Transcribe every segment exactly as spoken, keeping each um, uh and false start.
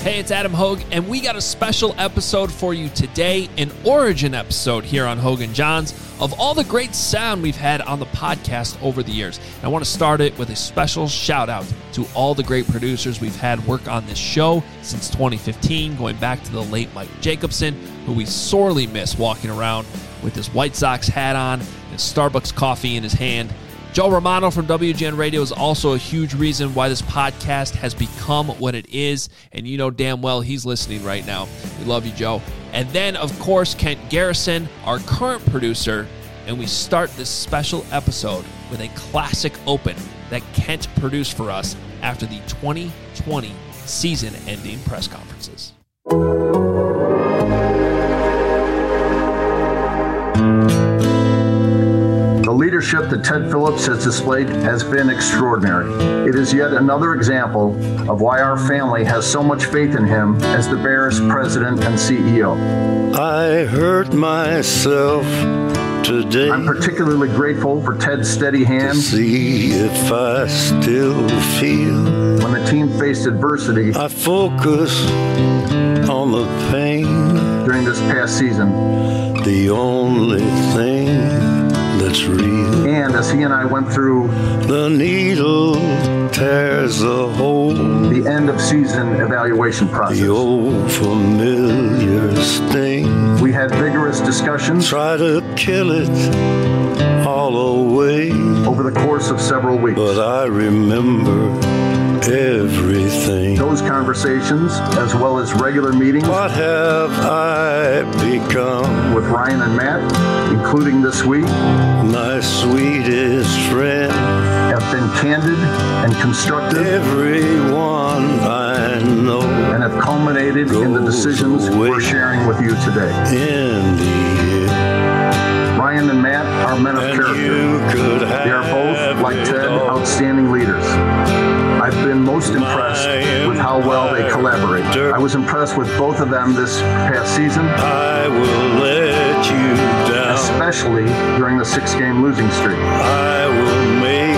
Hey, it's Adam Hogue, and we got a special episode for you today, an origin episode here on Hogue and Johns of all the great sound we've had on the podcast over the years. And I want to start it with a special shout out to all the great producers we've had work on this show since twenty fifteen, going back to the late Mike Jacobson, who we sorely miss walking around with his White Sox hat on and his Starbucks coffee in his hand. Joe Romano from W G N Radio is also a huge reason why this podcast has become what it is, and you know damn well he's listening right now. We love you, Joe. And then, of course, Kent Garrison, our current producer, and we start this special episode with a classic open that Kent produced for us after the twenty twenty season-ending press conferences. The leadership that Ted Phillips has displayed has been extraordinary. It is yet another example of why our family has so much faith in him as the Bears president and C E O. I hurt myself today. I'm particularly grateful for Ted's steady hand to see if I still feel. When the team faced adversity, I focus on the pain during this past season. The only thing that's real. And as he and I went through the needle tears a hole, the end of season evaluation process, the old familiar sting. We had vigorous discussions, try to kill it all away over the course of several weeks. But I remember everything. Those conversations, as well as regular meetings. What have I become? With Ryan and Matt, including this week. My sweetest friend. Have been candid and constructive. Everyone I know. And have culminated in the decisions we're sharing with you today. In the end. Ryan and Matt are men of and character. They are both, like Ted, all. outstanding leaders. I've been most impressed with how well they collaborate. I was impressed with both of them this past season. I will let you down. Especially during the six-game losing streak. I will make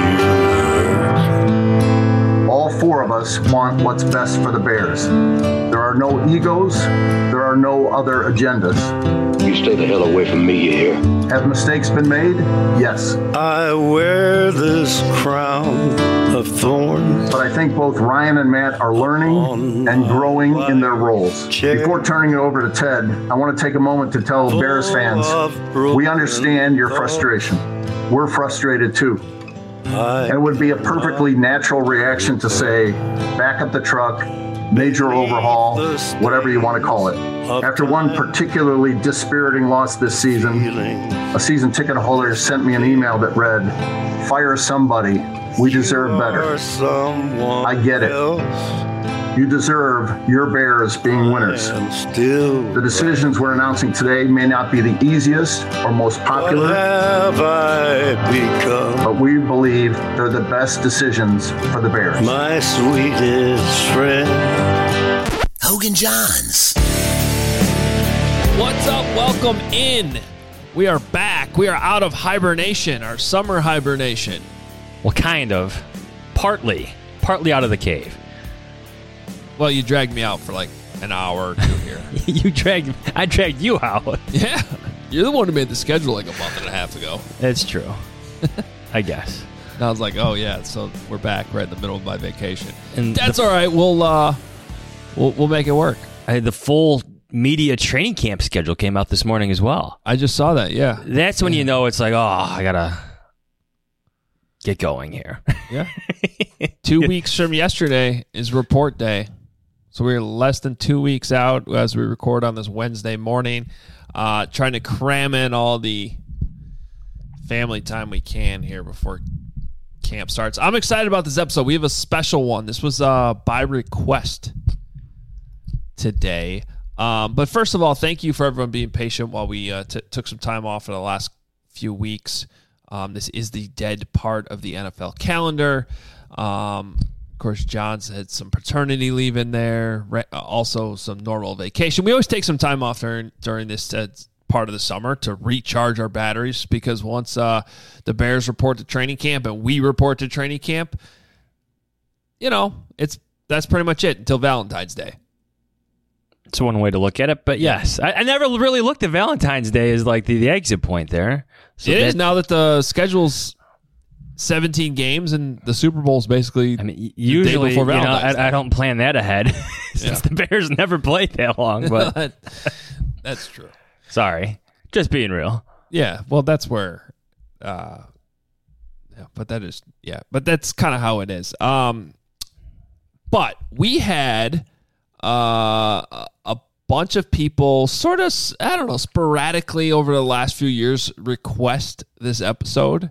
you hurt. All four of us want what's best for the Bears. There are no egos. There are no other agendas. You stay the hell away from me, you hear? Have mistakes been made? Yes. I wear this crown of thorns. But I think both Ryan and Matt are learning and growing in their roles. Chair. Before turning it over to Ted, I want to take a moment to tell Bears fans, we understand your frustration. We're frustrated too. And it would be a perfectly natural reaction to say, back up the truck, major overhaul, whatever you want to call it. After one particularly dispiriting loss this season, a season ticket holder sent me an email that read, fire somebody, we deserve better. I get it. You deserve your Bears being winners. The decisions we're announcing today may not be the easiest or most popular, but we believe they're the best decisions for the Bears. My sweetest friend. Hogue and Johns. What's up? Welcome in. We are back. We are out of hibernation, our summer hibernation. Well, kind of. Partly. Partly out of the cave. Well, you dragged me out for like an hour or two here. you dragged, I dragged you out. Yeah. You're the one who made the schedule like a month and a half ago. That's true. I guess. And I was like, oh, yeah, so we're back right in the middle of my vacation. And that's the, all right. We'll, uh, we'll, we'll make it work. I had the full media training camp schedule came out this morning as well. I just saw that, yeah. That's when yeah. you know it's like, oh, I got to get going here. Yeah. Two weeks from yesterday is report day. So we're less than two weeks out as we record on this Wednesday morning, uh, trying to cram in all the family time we can here before camp starts. I'm excited about this episode. We have a special one. This was uh, by request today. Um, but first of all, thank you for everyone being patient while we uh, t- took some time off for the last few weeks. Um, this is the dead part of the N F L calendar. Um, of course, John's had some paternity leave in there, re- also some normal vacation. We always take some time off during, during this uh, part of the summer to recharge our batteries because once uh, the Bears report to training camp and we report to training camp, you know, it's that's pretty much it until Valentine's Day. It's one way to look at it, but yes, I, I never really looked at Valentine's Day as like the, the exit point there. So it that, is now that the schedule's seventeen games and the Super Bowl's basically. I mean, usually the day before you know, Valentine's I, I don't plan that ahead since Yeah. the Bears never played that long. But that's true. Sorry, just being real. Yeah, well, that's where. Uh, yeah, but that is yeah, but that's kind of how it is. Um, but we had uh, a bunch of people sort of, I don't know, sporadically over the last few years request this episode.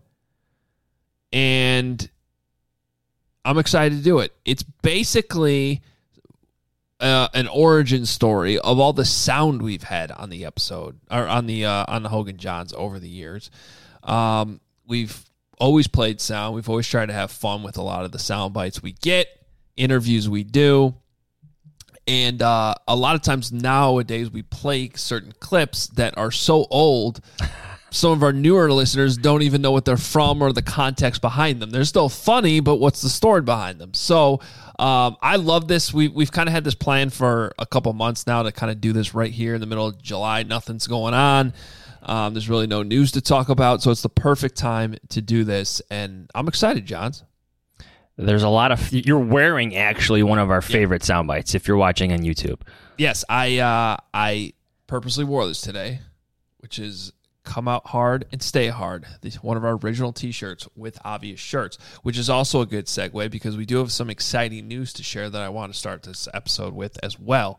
And I'm excited to do it. It's basically uh, an origin story of all the sound we've had on the episode or on the uh, on the Hogan Johns over the years. Um, we've always played sound. We've always tried to have fun with a lot of the sound bites we get, interviews we do. And uh, a lot of times nowadays we play certain clips that are so old, some of our newer listeners don't even know what they're from or the context behind them. They're still funny, but what's the story behind them? So um, I love this. We, we've kind of had this plan for a couple months now to kind of do this right here in the middle of July. Nothing's going on. Um, there's really no news to talk about, so it's the perfect time to do this. And I'm excited, Johns. There's a lot of you're wearing actually one of our favorite sound bites if you're watching on YouTube. Yes, I uh, I purposely wore this today, which is "Come Out Hard and Stay Hard." This one of our original T-shirts with obvious shirts, which is also a good segue because we do have some exciting news to share that I want to start this episode with as well.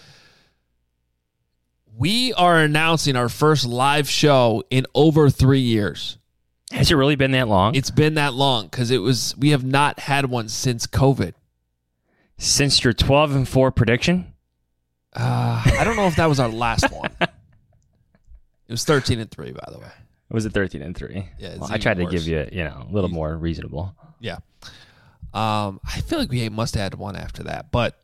We are announcing our first live show in over three years. Has it really been that long? It's been that long because it was. We have not had one since COVID. Since your twelve and four prediction? Uh, I don't know if that was our last one. It was thirteen and three, by the way. Was it thirteen and three? Yeah, well, I tried worse. to give you, you know, a little more reasonable. Yeah. Um, I feel like we must have had one after that, but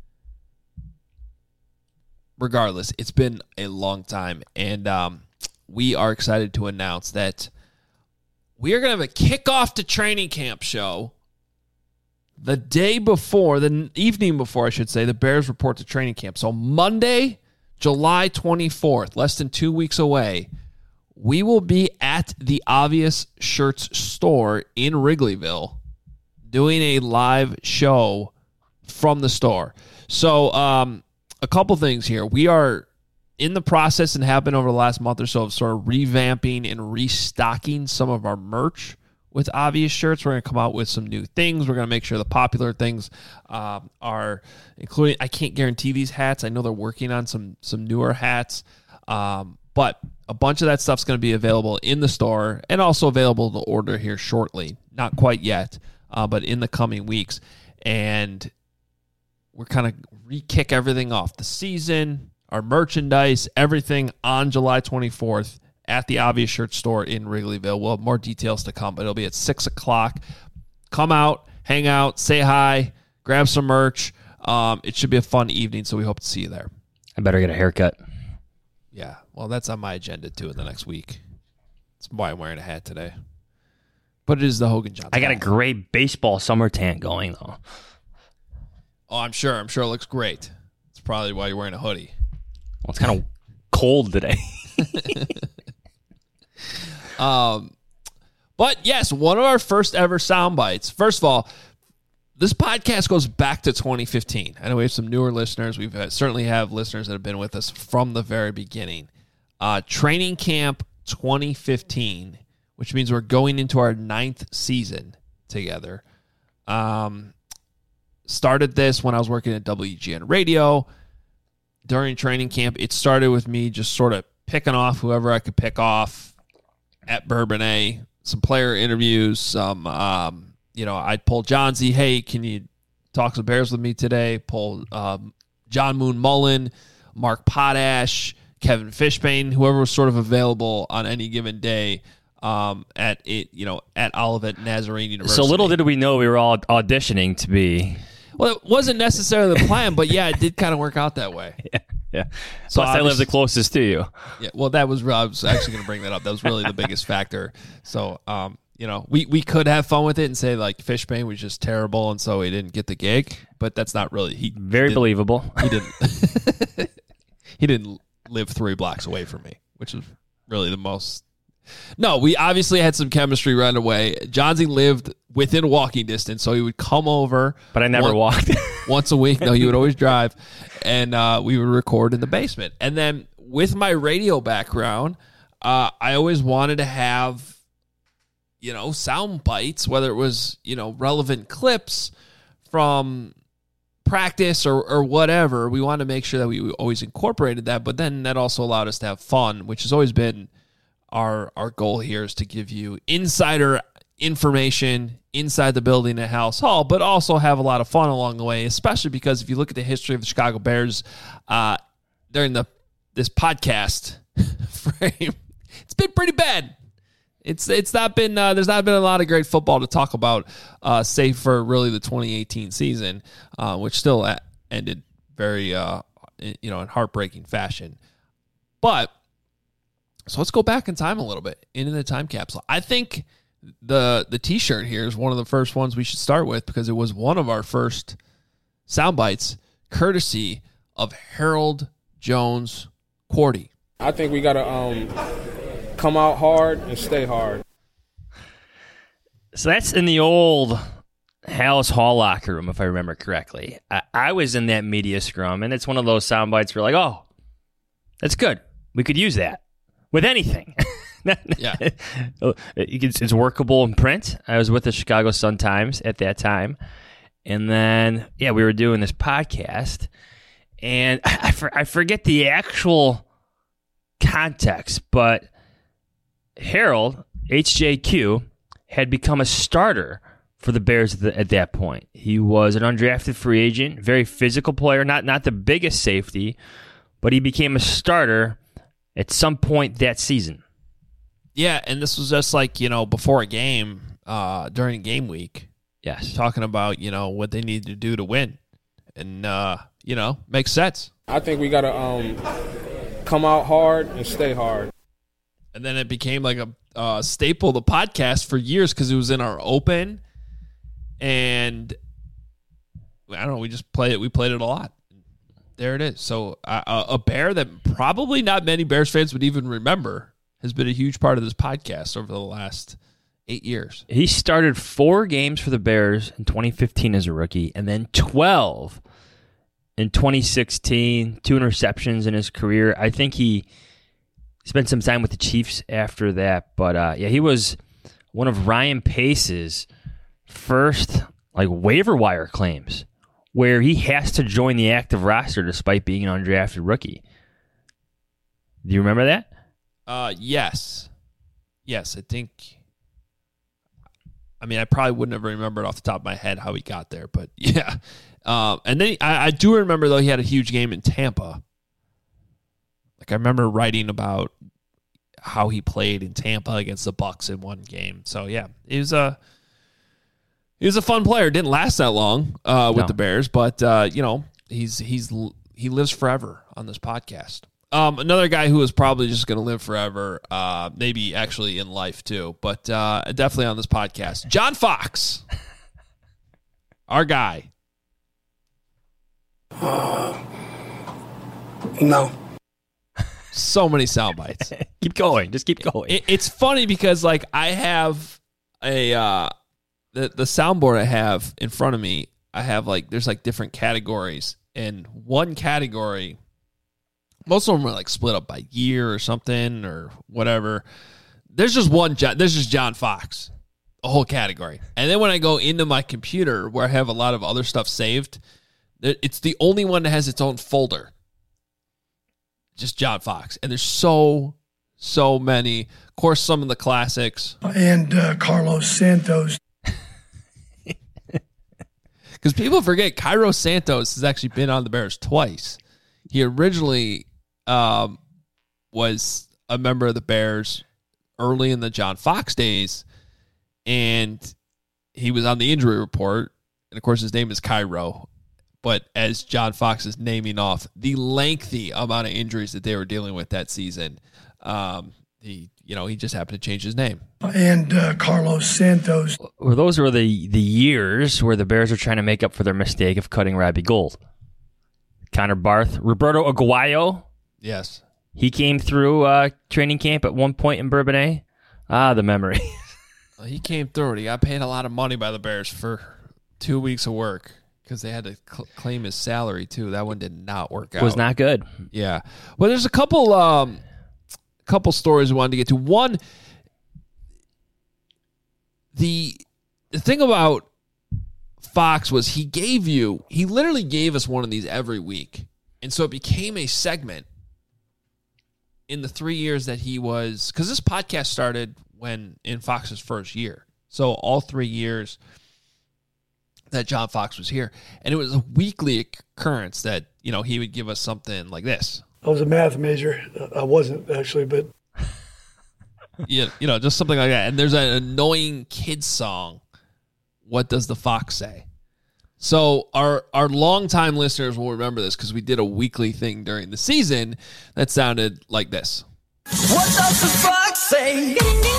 regardless, it's been a long time, and um, we are excited to announce that we are going to have a kickoff to training camp show the day before, the evening before, I should say, the Bears report to training camp. So Monday, July twenty-fourth, less than two weeks away, we will be at the Obvious Shirts store in Wrigleyville doing a live show from the store. So um, a couple things here. We are in the process and have been over the last month or so of sort of revamping and restocking some of our merch with Obvious Shirts. We're going to come out with some new things. We're going to make sure the popular things um, are including, I can't guarantee these hats. I know they're working on some some newer hats, um, but a bunch of that stuff's going to be available in the store and also available to order here shortly. Not quite yet, uh, but in the coming weeks. And we're kind of re-kick everything off. The season, our merchandise, everything on July twenty-fourth at the Obvious Shirt store in Wrigleyville. We'll have more details to come, but it'll be at six o'clock. Come out, hang out, say hi, grab some merch. Um, it should be a fun evening, so we hope to see you there. I better get a haircut. Yeah, well, that's on my agenda, too, in the next week. That's why I'm wearing a hat today. But it is the Hogan Johns. I got a great baseball summer tan going, though. Oh, I'm sure. I'm sure it looks great. It's probably why you're wearing a hoodie. Well, it's kind of cold today. um, but yes, one of our first ever sound bites. First of all, this podcast goes back to twenty fifteen. I know we have some newer listeners. We've had, certainly have listeners that have been with us from the very beginning. Uh, Training Camp twenty fifteen, which means we're going into our ninth season together. Um, started this when I was working at W G N Radio. During training camp, it started with me just sort of picking off whoever I could pick off at Bourbonnais, some player interviews, some, um, you know, I'd pull Johnsy, hey, can you talk some Bears with me today? Pull um, John Moon Mullen, Mark Potash, Kevin Fishbane, whoever was sort of available on any given day um, at it, you know, at Olivet Nazarene University. So little did we know we were all auditioning to be. Well, it wasn't necessarily the plan, but yeah, it did kind of work out that way. Yeah, yeah. So Plus, I live the closest to you. Yeah, well, that was I was actually going to bring that up. That was really the biggest factor. So, um, you know, we, we could have fun with it and say like Fishbane was just terrible and so he didn't get the gig, but that's not really he very he believable. He didn't he didn't live three blocks away from me, which is really the most. No, we obviously had some chemistry right away. Johnsy lived within walking distance, so he would come over. But I never one, walked. once a week. No, he would always drive, and uh, we would record in the basement. And then with my radio background, uh, I always wanted to have, you know, sound bites, whether it was, you know, relevant clips from practice or, or whatever. We wanted to make sure that we always incorporated that, but then that also allowed us to have fun, which has always been our our goal here, is to give you insider information inside the building at Halas Hall, but also have a lot of fun along the way, especially because if you look at the history of the Chicago Bears uh, during the this podcast frame, it's been pretty bad. It's it's not been uh, there's not been a lot of great football to talk about, uh, save for really the twenty eighteen season, uh, which still ended very uh, you know in heartbreaking fashion. But so let's go back in time a little bit into the time capsule. I think the the T-shirt here is one of the first ones we should start with because it was one of our first sound bites, courtesy of Harold Jones Quarty. I think we gotta um. come out hard and stay hard. So that's in the old Halas Hall locker room, if I remember correctly. I, I was in that media scrum, and it's one of those sound bites where like, oh, that's good. We could use that with anything. Yeah, it's, it's workable in print. I was with the Chicago Sun-Times at that time. And then, yeah, we were doing this podcast, and I, I, for, I forget the actual context, but Harold, H J Q, had become a starter for the Bears at, the, at that point. He was an undrafted free agent, very physical player, not not the biggest safety, but he became a starter at some point that season. Yeah, and this was just like, you know, before a game, uh, during game week. Yes. Talking about, you know, what they needed to do to win. And, uh, you know, makes sense. I think we got to um, come out hard and stay hard. And then it became like a uh, staple of the podcast for years because it was in our open. And I don't know, we just played it. We played it a lot. There it is. So uh, a Bear that probably not many Bears fans would even remember has been a huge part of this podcast over the last eight years. He started four games for the Bears in twenty fifteen as a rookie, and then twelve in twenty sixteen, two interceptions in his career. I think he spent some time with the Chiefs after that, but uh, yeah, he was one of Ryan Pace's first like waiver wire claims where he has to join the active roster despite being an undrafted rookie. Do you remember that? Uh, yes. Yes, I think. I mean, I probably wouldn't have remembered off the top of my head how he got there, but yeah. Um, and then he, I, I do remember, though, he had a huge game in Tampa. Like, I remember writing about how he played in Tampa against the Bucs in one game. So, yeah, he was a, he was a fun player. Didn't last that long uh, with no. the Bears, but, uh, you know, he's he's he lives forever on this podcast. Um, another guy who is probably just going to live forever, uh, maybe actually in life too, but uh, definitely on this podcast. John Fox, our guy. Uh, no. So many sound bites. Keep going. Just keep going. It, it's funny because like I have a uh, the the soundboard I have in front of me. I have like there's like different categories, and one category. Most of them are like split up by year or something or whatever. There's just one. There's just John Fox, a whole category. And then when I go into my computer where I have a lot of other stuff saved, it's the only one that has its own folder. Just John Fox. And there's so, so many. Of course, some of the classics. And uh, Carlos Santos. Because people forget Cairo Santos has actually been on the Bears twice. He originally um, was a member of the Bears early in the John Fox days, and he was on the injury report. And, of course, his name is Cairo. But as John Fox is naming off the lengthy amount of injuries that they were dealing with that season, um, he you know, he just happened to change his name. And uh, Carlos Santos. Well, those were the, the years where the Bears were trying to make up for their mistake of cutting Robbie Gould. Connor Barth, Roberto Aguayo. Yes. He came through uh, training camp at one point in Bourbonnais. Ah, the memory. Well, he came through it. He got paid a lot of money by the Bears for two weeks of work because they had to cl- claim his salary, too. That one did not work out. Was not good. Yeah. Well, there's a couple um, couple stories we wanted to get to. One, the, the thing about Fox was he gave you, he literally gave us one of these every week. And so it became a segment in the three years that he was, because this podcast started when in Fox's first year. So all three years that John Fox was here. And it was a weekly occurrence that, you know, he would give us something like this. I was a math major. I wasn't, actually, but. Yeah, you know, just something like that. And there's an annoying kid song, What Does the Fox Say? So our our longtime listeners will remember this because we did a weekly thing during the season that sounded like this. What does the fox say?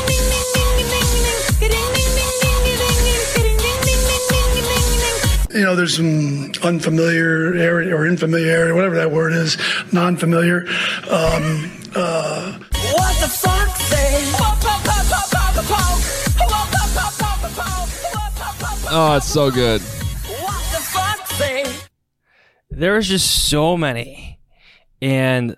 You know, there's some unfamiliar area or infamiliarity, whatever that word is, non-familiar. Um, uh, What the fox say? Oh, it's so good. There was just so many. And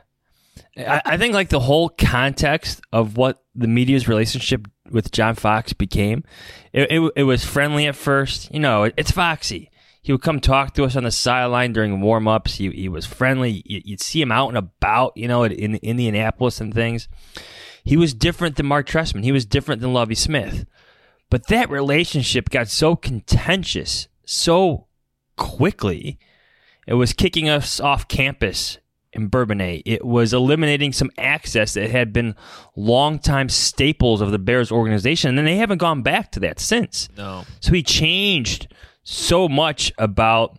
I, I think like the whole context of what the media's relationship with John Fox became, it, it, it was friendly at first. You know, it, it's Foxy. He would come talk to us on the sideline during warm-ups. He, he was friendly. You, you'd see him out and about, you know, in Indianapolis and things. He was different than Mark Trestman. He was different than Lovie Smith. But that relationship got so contentious so quickly. It was kicking us off campus in Bourbonnais. It was eliminating some access that had been longtime staples of the Bears organization, and then they haven't gone back to that since. No. So he changed so much about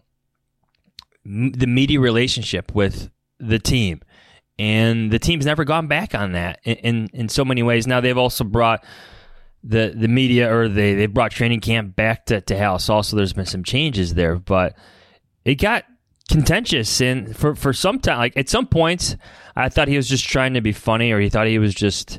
m- the media relationship with the team, and the team's never gone back on that in, in, in so many ways. Now they've also brought the the media, or they they brought training camp back to, to House. Also, there's been some changes there, but it got contentious, and for, for some time, like at some points, I thought he was just trying to be funny, or he thought he was just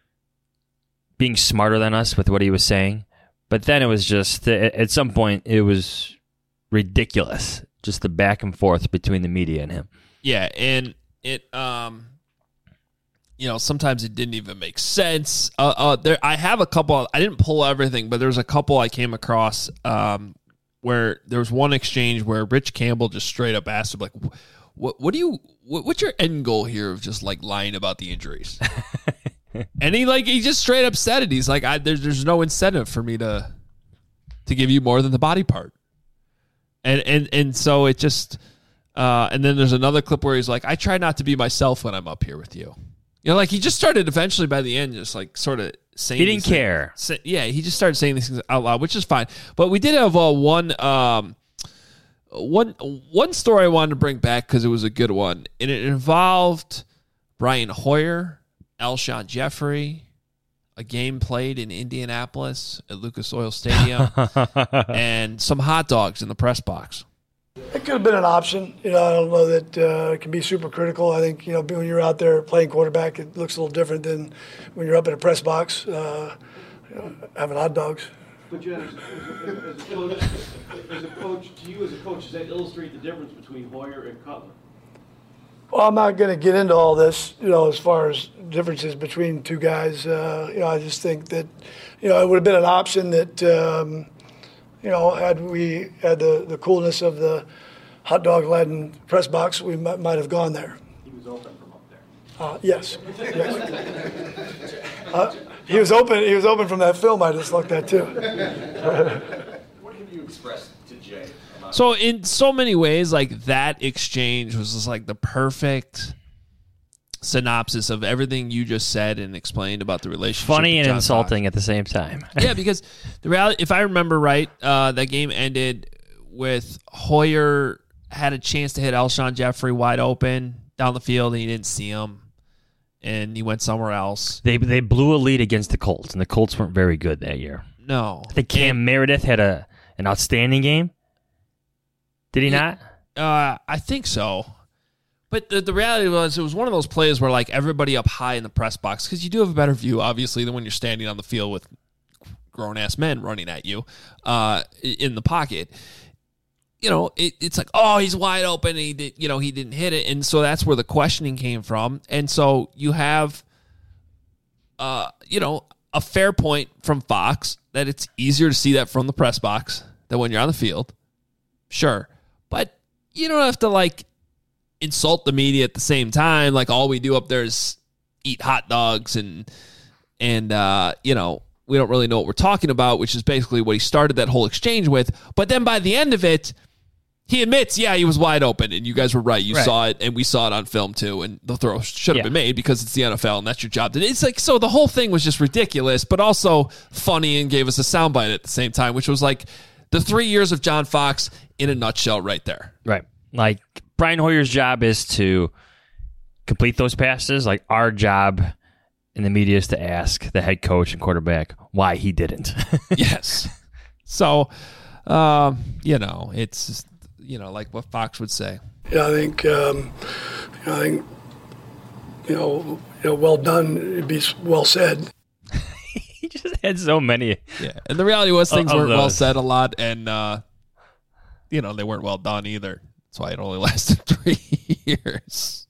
being smarter than us with what he was saying. But then it was just, at some point, it was ridiculous, just the back and forth between the media and him. Yeah, and it, um, you know, sometimes it didn't even make sense. Uh, uh, there, I have a couple. I didn't pull everything, but there's a couple I came across. Um, where there was one exchange where Rich Campbell just straight up asked him, like, what what do you, what, what's your end goal here of just, like, lying about the injuries? And he, like, he just straight up said it. He's like, I, there's there's no incentive for me to to give you more than the body part. And and and so it just, uh, and then there's another clip where he's like, I try not to be myself when I'm up here with you. You know, like, he just started eventually by the end just, like, sort of saying He didn't care. Say, yeah, he just started saying these things out loud, which is fine. But we did have uh, one, um, one, one story I wanted to bring back because it was a good one. And it involved Brian Hoyer, Alshon Jeffrey, a game played in Indianapolis at Lucas Oil Stadium, and some hot dogs in the press box. It could have been an option. You know, I don't know that uh, it can be super critical. I think, you know, when you're out there playing quarterback, it looks a little different than when you're up in a press box uh, you know, having hot dogs. But Jen, as, as, as, a coach, as a coach, to you as a coach, does that illustrate the difference between Hoyer and Cutler? Well, I'm not going to get into all this, you know, as far as differences between two guys. Uh, you know, I just think that, you know, it would have been an option that, um, you know, had we had the, the coolness of the hot dog Latin press box, we might, might have gone there. He was open from up there. Uh, yes. yes. Uh, he was open. He was open from that film I just looked at too. What have you expressed to Jay? So in so many ways, like, that exchange was just like the perfect synopsis of everything you just said and explained about the relationship. Funny and John insulting Fox. at the same time. Yeah, because the reality, if I remember right, uh, that game ended with Hoyer had a chance to hit Alshon Jeffrey wide open down the field, and he didn't see him. and he went somewhere else. They they blew a lead against the Colts, and the Colts weren't very good that year. No. I think Cam and, Meredith had a an outstanding game. Did he, he not? Uh, I think so. But the, the reality was, it was one of those plays where, like, everybody up high in the press box, because you do have a better view, obviously, than when you're standing on the field with grown-ass men running at you uh, in the pocket. You know, it, it's like, oh, he's wide open, and he did, you know, he didn't hit it, and so that's where the questioning came from. And so you have, uh, you know, a fair point from Fox that it's easier to see that from the press box than when you're on the field. Sure. But you don't have to, like, insult the media at the same time. Like, all we do up there is eat hot dogs and, and uh, you know, we don't really know what we're talking about, which is basically what he started that whole exchange with. But then by the end of it, he admits, yeah, he was wide open, and you guys were right. You right. saw it, and we saw it on film, too, and the throw should have yeah. been made because it's the N F L, and that's your job. It's like, so the whole thing was just ridiculous, but also funny and gave us a soundbite at the same time, which was like the three years of John Fox in a nutshell right there. Right. Like, Brian Hoyer's job is to complete those passes. Like, our job in the media is to ask the head coach and quarterback why he didn't. Yes. So, um, you know, it's just, you know, like what Fox would say. Yeah, I think, um, you know, I think, you know, you know, well done. It'd be well said. He just had so many. Yeah, and the reality was things of weren't those. well said a lot, and uh, you know, they weren't well done either. That's why it only lasted three years.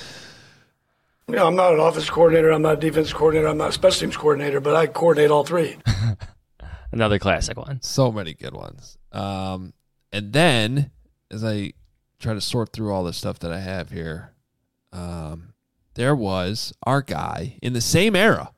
You know, I'm not an offense coordinator. I'm not a defense coordinator. I'm not a special teams coordinator, but I coordinate all three. Another classic one. So many good ones. Um, and then, as I try to sort through all the stuff that I have here, um, there was our guy in the same era,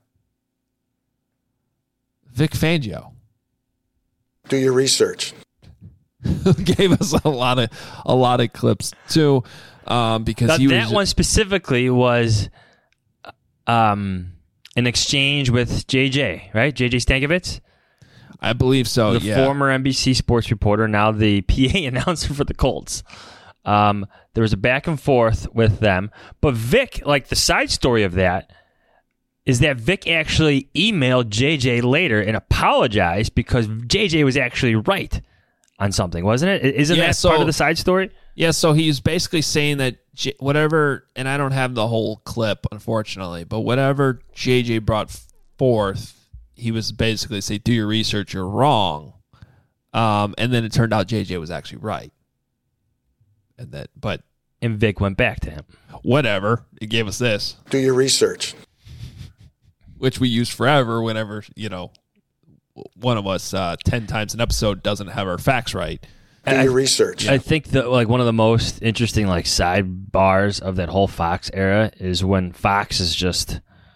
Vic Fangio. Do your research. Gave us a lot of a lot of clips too, um, because that, he was that one specifically was um, an exchange with J J, right? J J Stankovitz. I believe so. The yeah. former N B C sports reporter, now the P A announcer for the Colts. Um, there was a back and forth with them, but Vic, like the side story of that, is that Vic actually emailed J J later and apologized because J J was actually right on something, wasn't it? Isn't yeah, that so, part of the side story? Yeah, so he's basically saying that J- whatever, and I don't have the whole clip, unfortunately, but whatever J J brought forth, he was basically saying, do your research, you're wrong. Um, and then it turned out J J was actually right. And that, but and Vic went back to him. Whatever. It gave us this. Do your research. Which we use forever whenever, you know, one of us uh, ten times an episode doesn't have our facts right. Do your research. I think that like one of the most interesting like sidebars of that whole Fox era is when Fox is just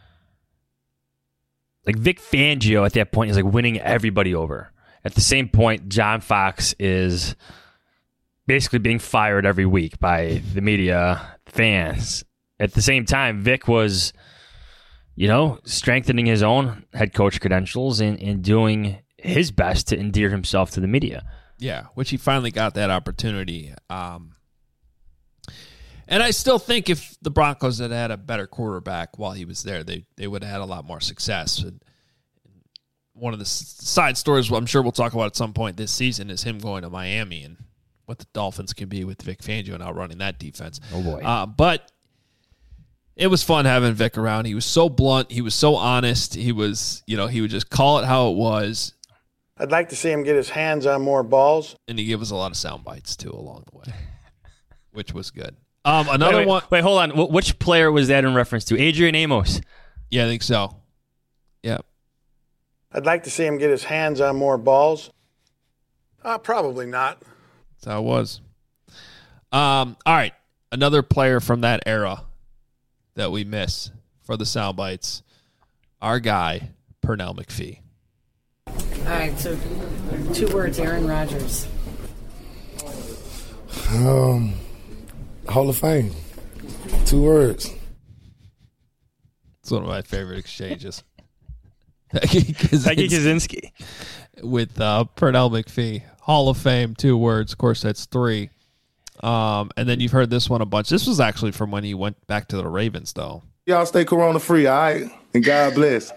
like Vic Fangio at that point is like winning everybody over. At the same point, John Fox is basically being fired every week by the media, fans. At the same time, Vic was, you know, strengthening his own head coach credentials and, and doing his best to endear himself to the media. Yeah, which he finally got that opportunity. Um, and I still think if the Broncos had had a better quarterback while he was there, they they would have had a lot more success. And one of the side stories I'm sure we'll talk about at some point this season is him going to Miami and what the Dolphins can be with Vic Fangio and outrunning that defense. Oh, boy. Uh, but it was fun having Vic around. He was so blunt. He was so honest. He was, you know, he would just call it how it was. I'd like to see him get his hands on more balls. And he gave us a lot of sound bites, too, along the way, which was good. Um, another wait, wait, one. Wait, hold on. Wh- which player was that in reference to? Adrian Amos. Yeah, I think so. Yeah. I'd like to see him get his hands on more balls. Uh, probably not. That's how it was. Um, all right. Another player from that era that we miss for the sound bites. Our guy, Pernell McPhee. All right, so two words, Aaron Rodgers. Um, Hall of Fame. Two words. It's one of my favorite exchanges. Becky Kaczynski. With uh, Pernell McPhee. Hall of Fame, two words. Of course, that's three. Um, and then you've heard this one a bunch. This was actually from when he went back to the Ravens, though. Y'all stay corona free, all right? And God bless.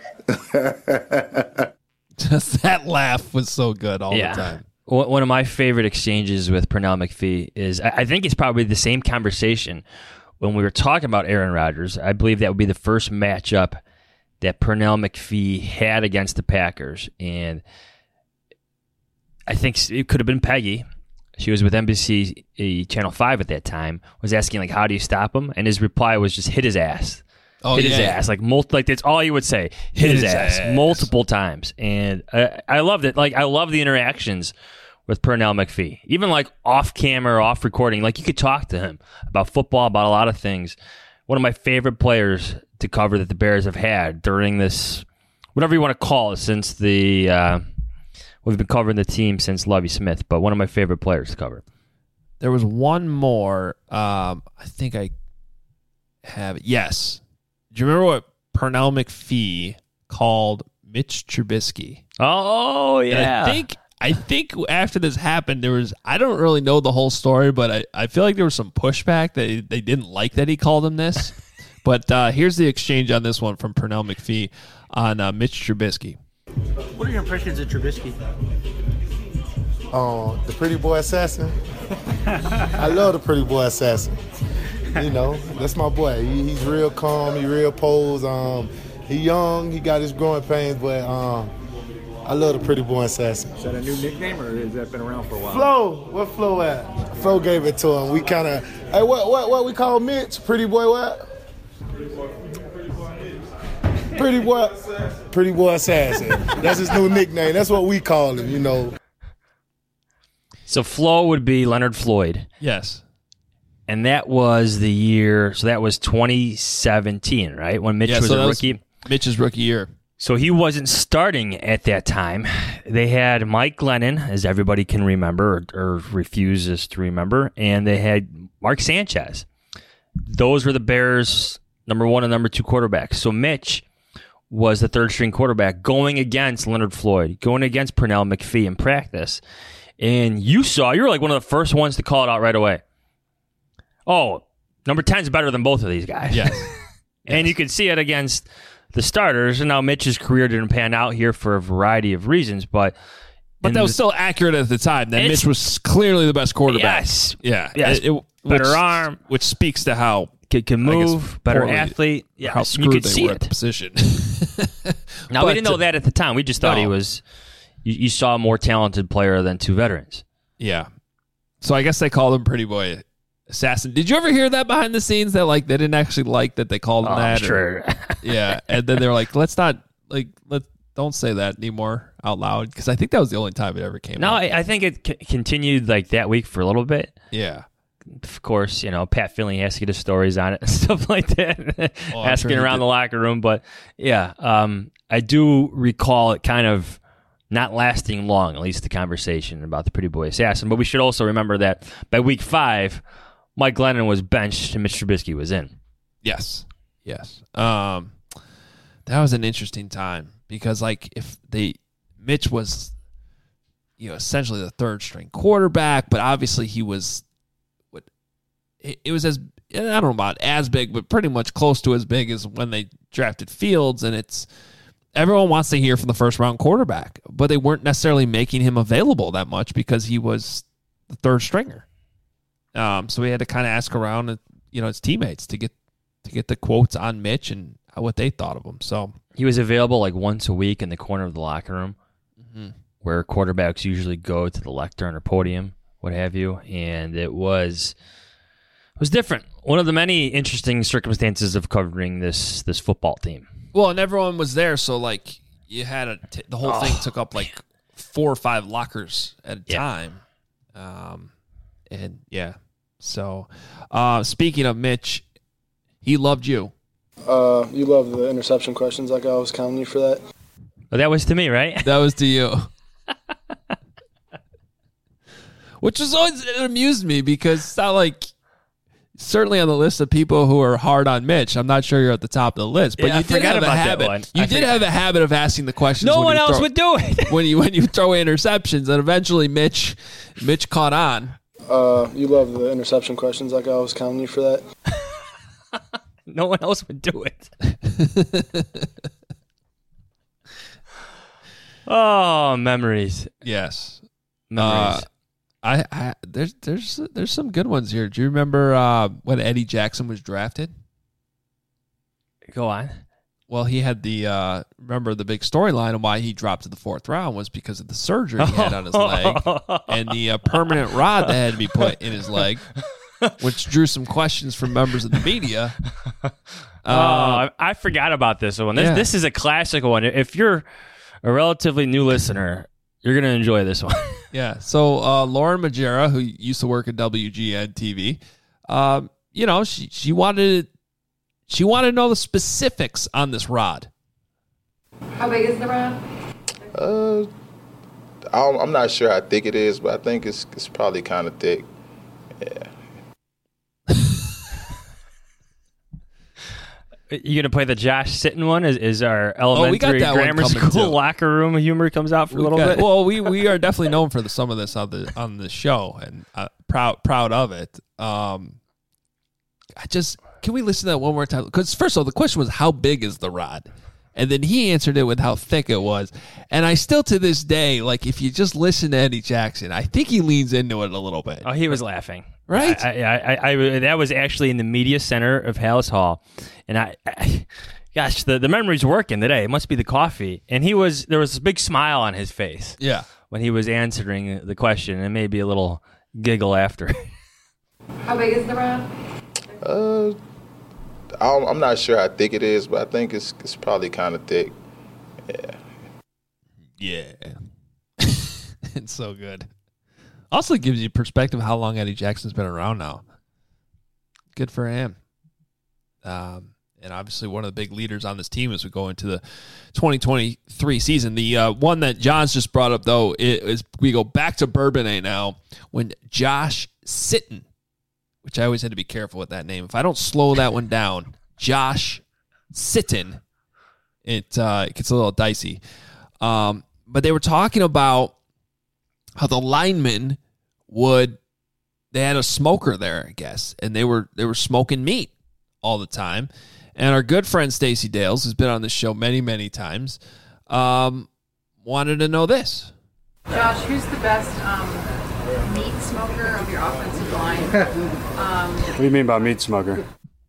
Just that laugh was so good all yeah. the time. One of my favorite exchanges with Pernell McPhee is, I think it's probably the same conversation when we were talking about Aaron Rodgers. I believe that would be the first matchup that Pernell McPhee had against the Packers. And I think it could have been Peggy. She was with N B C Channel five at that time, was asking, like, how do you stop him? And his reply was just hit his ass. Oh, hit yeah. his ass. Like, multi- like, that's all he would say. Hit, hit his, his ass, ass multiple times. And I, I loved it. Like, I love the interactions with Pernell McPhee. Even, like, off camera, off recording. Like, you could talk to him about football, about a lot of things. One of my favorite players to cover that the Bears have had during this, whatever you want to call it, since the... Uh, We've been covering the team since Lovie Smith, but one of my favorite players to cover. There was one more. Um, I think I have it. Yes. Do you remember what Pernell McPhee called Mitch Trubisky? Oh, yeah. And I think I think after this happened, there was, I don't really know the whole story, but I, I feel like there was some pushback that they didn't like that he called him this. But uh, here's the exchange on this one from Pernell McPhee on uh, Mitch Trubisky. What are your impressions of Trubisky? Oh, the pretty boy assassin. I love the pretty boy assassin. You know, that's my boy. He, he's real calm. He real posed. Um, he young. He got his growing pains, but um, I love the pretty boy assassin. Is that a new nickname, or has that been around for a while? Flo, what Flo at? Flo gave it to him. We kind of, hey, what what what we call Mitch? Pretty boy what? Pretty boy, pretty boy assassin. That's his new nickname. That's what we call him, you know. So Flo would be Leonard Floyd. Yes. And that was the year, so that was twenty seventeen, right? When Mitch yeah, was so a was rookie. Mitch's rookie year. So he wasn't starting at that time. They had Mike Glennon, as everybody can remember, or, or refuses to remember, and they had Mark Sanchez. Those were the Bears' number one and number two quarterbacks. So Mitch was the third-string quarterback going against Leonard Floyd, going against Pernell McPhee in practice. And you saw, you were like one of the first ones to call it out right away. Oh, number ten is better than both of these guys. Yes. And yes. you could see it against the starters. And now Mitch's career didn't pan out here for a variety of reasons, but... But that was the, still accurate at the time. That Mitch was clearly the best quarterback. Yes. Yeah. Yes. It, it, better which, arm. Which speaks to how... Can, can move, guess, better poorly, athlete. Yeah, how screwed you could they see were it. at the position. Now, we didn't know that at the time. We just thought no. he was... You, you saw a more talented player than two veterans. Yeah. So I guess they called him Pretty Boy Assassin. Did you ever hear that behind the scenes that like they didn't actually like that they called him oh, that? I'm sure. Or, yeah. And then they were like, let's not, like, let's don't say that anymore out loud. Because I think that was the only time it ever came no, out. I, I think it c- continued like that week for a little bit. Yeah. Of course, you know, Pat Finley has to get his stories on it and stuff like that, oh, asking sure around the locker room. But yeah, um, I do recall it kind of not lasting long, at least the conversation about the Pretty Boy Assassin. But we should also remember that by week five, Mike Glennon was benched and Mitch Trubisky was in. Yes. Yes. Um, that was an interesting time because, like, if they, Mitch was, you know, essentially the third string quarterback, but obviously he was, what, it, it was as, I don't know about as big, but pretty much close to as big as when they drafted Fields. And it's, everyone wants to hear from the first round quarterback, but they weren't necessarily making him available that much because he was the third stringer. Um, so we had to kind of ask around, you know, his teammates to get to get the quotes on Mitch and what they thought of him. So he was available like once a week in the corner of the locker room, mm-hmm. where quarterbacks usually go to the lectern or podium, what have you, and it was it was different. One of the many interesting circumstances of covering this this football team. Well, and everyone was there, so like you had a t- the whole oh, thing took up like four or five lockers at a yeah. time. Um, and yeah, so uh, speaking of Mitch, he loved you. Uh, you love the interception questions, like I was counting you for that. Well, that was to me, right? That was to you. Which was always, it amused me because it's not like, certainly on the list of people who are hard on Mitch, I'm not sure you're at the top of the list. But yeah, you did have a habit. You I did forgot. have a habit of asking the questions. No when one you else throw, would do it. when you when you throw interceptions, and eventually Mitch Mitch caught on. Uh, you love the interception questions, like I was counting you for that. No one else would do it. Oh, memories. Yes. Memories. Uh, I, I there's there's there's some good ones here. Do you remember uh, when Eddie Jackson was drafted? Go on. Well, he had the uh, remember the big storyline of why he dropped to the fourth round was because of the surgery he had on his leg and the uh, permanent rod that had to be put in his leg, which drew some questions from members of the media. Oh, Uh, I forgot about this one. This yeah. this is a classic one. If you're a relatively new listener, you're gonna enjoy this one. Yeah. So uh, Lauren Majera, who used to work at W G N T V, um, you know, she she wanted she wanted to know the specifics on this rod. How big is the rod? Uh, I don't, I'm not sure how thick it is, but I think it's it's probably kind of thick. Yeah. You gonna play the Josh Sitton one? Is is our elementary that one grammar coming, school too. locker room humor comes out for We a little got- bit? Well, we, we are definitely known for the, some of this on the on the show, and uh, proud proud of it. Um, I just can we listen to that one more time? Because first of all, the question was how big is the rod, and then he answered it with how thick it was. And I still to this day, like if you just listen to Eddie Jackson, I think he leans into it a little bit. Oh, he was laughing. Right? I, I, I, I, that was actually in the media center of Hallis Hall, and I, I gosh, the, the memory's working today. It must be the coffee. And he was there was a big smile on his face. Yeah. When he was answering the question, and maybe a little giggle after. How big is the rod? Uh, I don't, I'm not sure how thick it is, but I think it's it's probably kind of thick. Yeah. Yeah. It's so good. Also gives you perspective how long Eddie Jackson's been around now. Good for him. Um, and obviously one of the big leaders on this team as we go into the twenty twenty-three season. The uh, one that John's just brought up, though, is we go back to Bourbonnais now when Josh Sitton, which I always had to be careful with that name. If I don't slow that one down, Josh Sitton, it, uh, it gets a little dicey. Um, but they were talking about how the linemen would, they had a smoker there, I guess, and they were they were smoking meat all the time. And our good friend Stacey Dales, who's been on this show many, many times, um, wanted to know this. Josh, who's the best um, meat smoker of your offensive line? Um, What do you mean by meat smoker?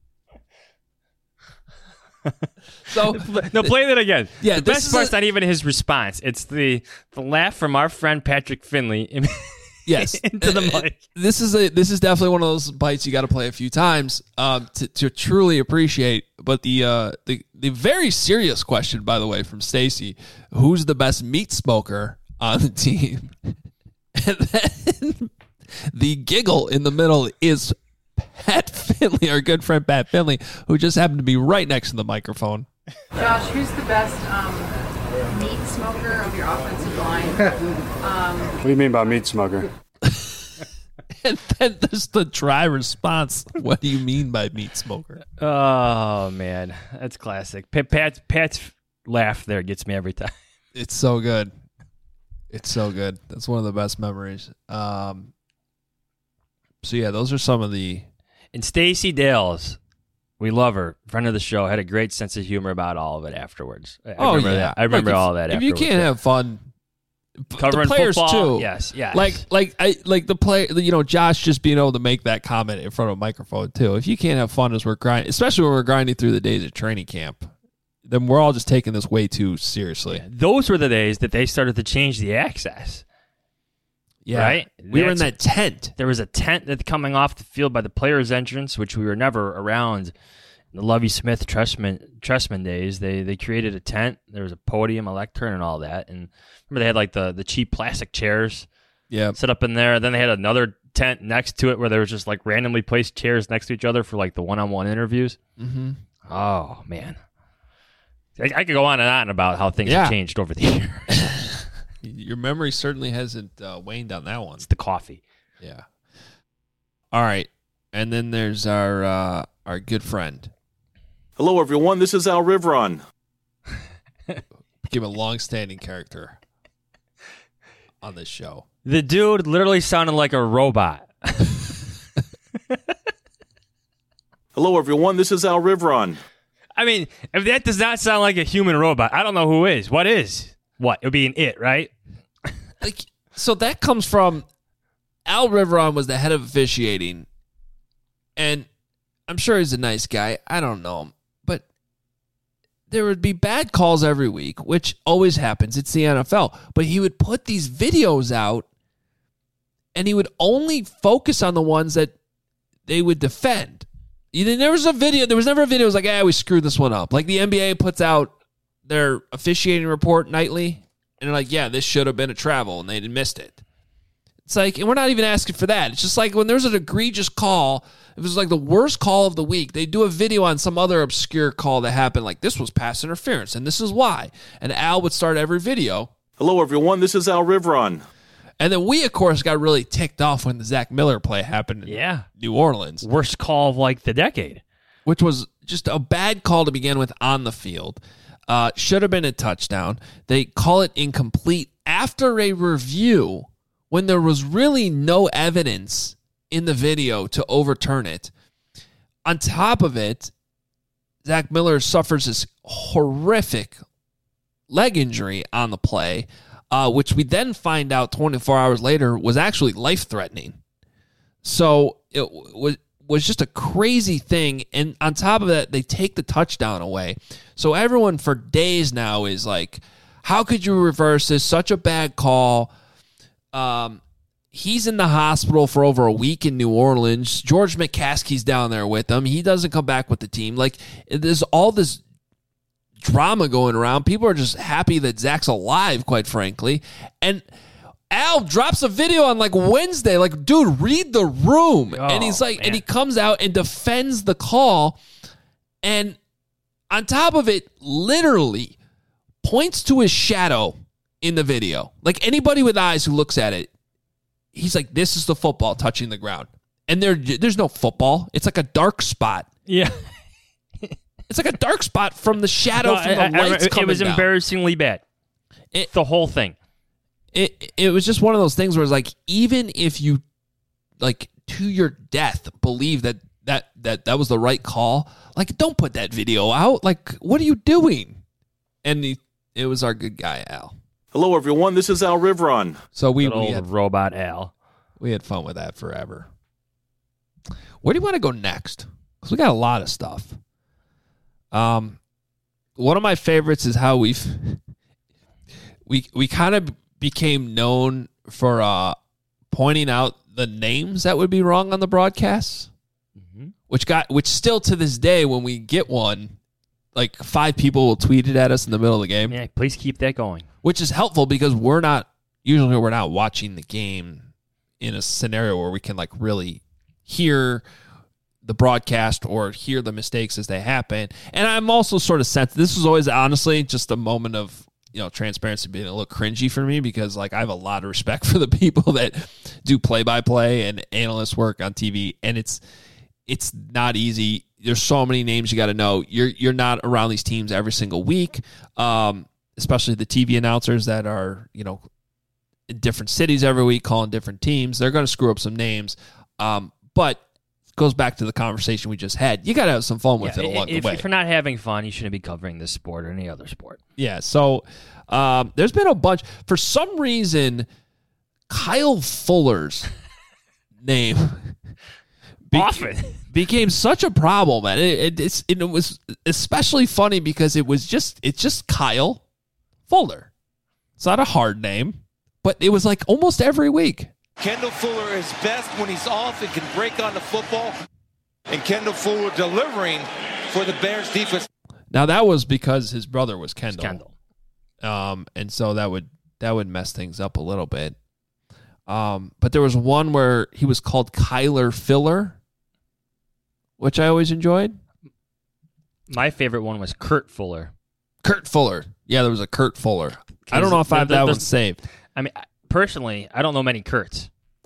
So no, play that again. Yeah, the this best is part's a- not even his response. It's the the laugh from our friend Patrick Finley. Yes, into the mic. This is a this is definitely one of those bites you got to play a few times um, to to truly appreciate. But the uh, the the very serious question, by the way, from Stacy, who's the best meat smoker on the team? And then the giggle in the middle is Pat Finley, our good friend Pat Finley, who just happened to be right next to the microphone. Josh, who's the best um, meat smoker of your offensive line? Um, What do you mean by meat smoker? And then there's the dry response. What do you mean by meat smoker? Oh man, that's classic. Pat, Pat Pat's laugh there gets me every time. It's so good. It's so good. That's one of the best memories. Um, so yeah, those are some of the. And Stacey Dales, we love her, friend of the show, had a great sense of humor about all of it afterwards. I oh remember yeah, that. I remember Like, if- all that. If afterwards. you can't have fun, Covering the players football, too. yes, yes. Like like I like the play. You know, Josh just being able to make that comment in front of a microphone too. If you can't have fun as we're grinding, especially when we're grinding through the days of training camp, then we're all just taking this way too seriously. those were the days that they started to change the access. Yeah. Right? We were in That's- that tent. There was a tent that coming off the field by the players' entrance, which we were never around in the Lovie Smith Trustman Trustman days. They they created a tent. There was a podium, a lectern, and all that. And remember they had like the, the cheap plastic chairs yeah. set up in there. Then they had another tent next to it where there was just like randomly placed chairs next to each other for like the one-on-one interviews. Mm-hmm. Oh, man. I, I could go on and on about how things Yeah. have changed over the years. Your memory certainly hasn't uh, waned on that one. It's the coffee. Yeah. All right, and then there's our uh, our good friend. Hello, everyone. This is Al Rivron. Became a long-standing character on this show. The dude literally sounded like a robot. Hello, everyone. This is Al Rivron. I mean, if that does not sound like a human robot, I don't know who is. What is? What? It would be an it, right? Like, so that comes from Al Rivron was the head of officiating, and I'm sure he's a nice guy. I don't know him, but there would be bad calls every week, which always happens. It's the N F L. But he would put these videos out, and he would only focus on the ones that they would defend. There was a video. There was never a video. It was like, ah, we screwed this one up. Like the N B A puts out their officiating report nightly, and they're like, yeah, this should have been a travel, and they missed it. It's like, and we're not even asking for that. It's just like when there's an egregious call, if it was like the worst call of the week, they do a video on some other obscure call that happened, like this was pass interference, and this is why. And Al would start every video. Hello, everyone. This is Al Rivron. And then we, of course, got really ticked off when the Zach Miller play happened in yeah. New Orleans. Worst call of like the decade. Which was just a bad call to begin with on the field. Uh, should have been a touchdown. They call it incomplete after a review when there was really no evidence in the video to overturn it. On top of it, Zach Miller suffers this horrific leg injury on the play, uh, which we then find out twenty-four hours later was actually life-threatening. So it was was just a crazy thing. And on top of that, they take the touchdown away. So everyone for days now is like, how could you reverse this? Such a bad call. Um, he's in the hospital for over a week in New Orleans. George McCaskey's down there with him. He doesn't come back with the team. Like, there's all this drama going around. People are just happy that Zach's alive, quite frankly. And Al drops a video on like Wednesday, like, dude, read the room. Oh, and he's like, man. And he comes out and defends the call. And on top of it, literally points to his shadow in the video. Like anybody with eyes who looks at it, he's like, this is the football touching the ground. And there, there's no football. It's like a dark spot. Yeah. It's like a dark spot from the shadow no, from the I, lights I, I, coming It was down. embarrassingly bad. It, the whole thing. It it was just one of those things where it's like, even if you, like, to your death, believe that that, that that was the right call, like, don't put that video out. Like, what are you doing? And he, it was our good guy, Al. Hello, everyone. This is Al Rivron. So we, Good we old had robot Al. We had fun with that forever. Where do you want to go next? Because we got a lot of stuff. Um, one of my favorites is how we've we we kind of became known for uh, pointing out the names that would be wrong on the broadcasts, mm-hmm. which got which still to this day when we get one, like five people will tweet it at us in the middle of the game. Yeah, please keep that going. Which is helpful because we're not usually we're not watching the game in a scenario where we can like really hear the broadcast or hear the mistakes as they happen. And I'm also sort of sensed this was always honestly just a moment of, you know, transparency being a little cringy for me because like I have a lot of respect for the people that do play by play and analyst work on T V, and it's it's not easy. There's so many names you got to know. You're you're not around these teams every single week. Um, especially the T V announcers that are, you know, in different cities every week calling different teams. They're going to screw up some names. Um, but it goes back to the conversation we just had. You got to have some fun with yeah, it along if, the way. If you're not having fun, you shouldn't be covering this sport or any other sport. Yeah, so um, there's been a bunch. For some reason, Kyle Fuller's name be- often became such a problem. And it, it, it's, it was especially funny because it was just it's just Kyle Fuller. It's not a hard name, but it was like almost every week. Kendall Fuller is best when he's off and can break on the football. And Kendall Fuller delivering for the Bears defense. Now that was because his brother was Kendall. Kendall. Um, and so that would that would mess things up a little bit. Um, but there was one where he was called Kyler Filler, which I always enjoyed. My favorite one was Kurt Fuller. Kurt Fuller. Yeah, there was a Kurt Fuller. I don't know if I have that one saved. I mean, personally, I don't know many Kurts.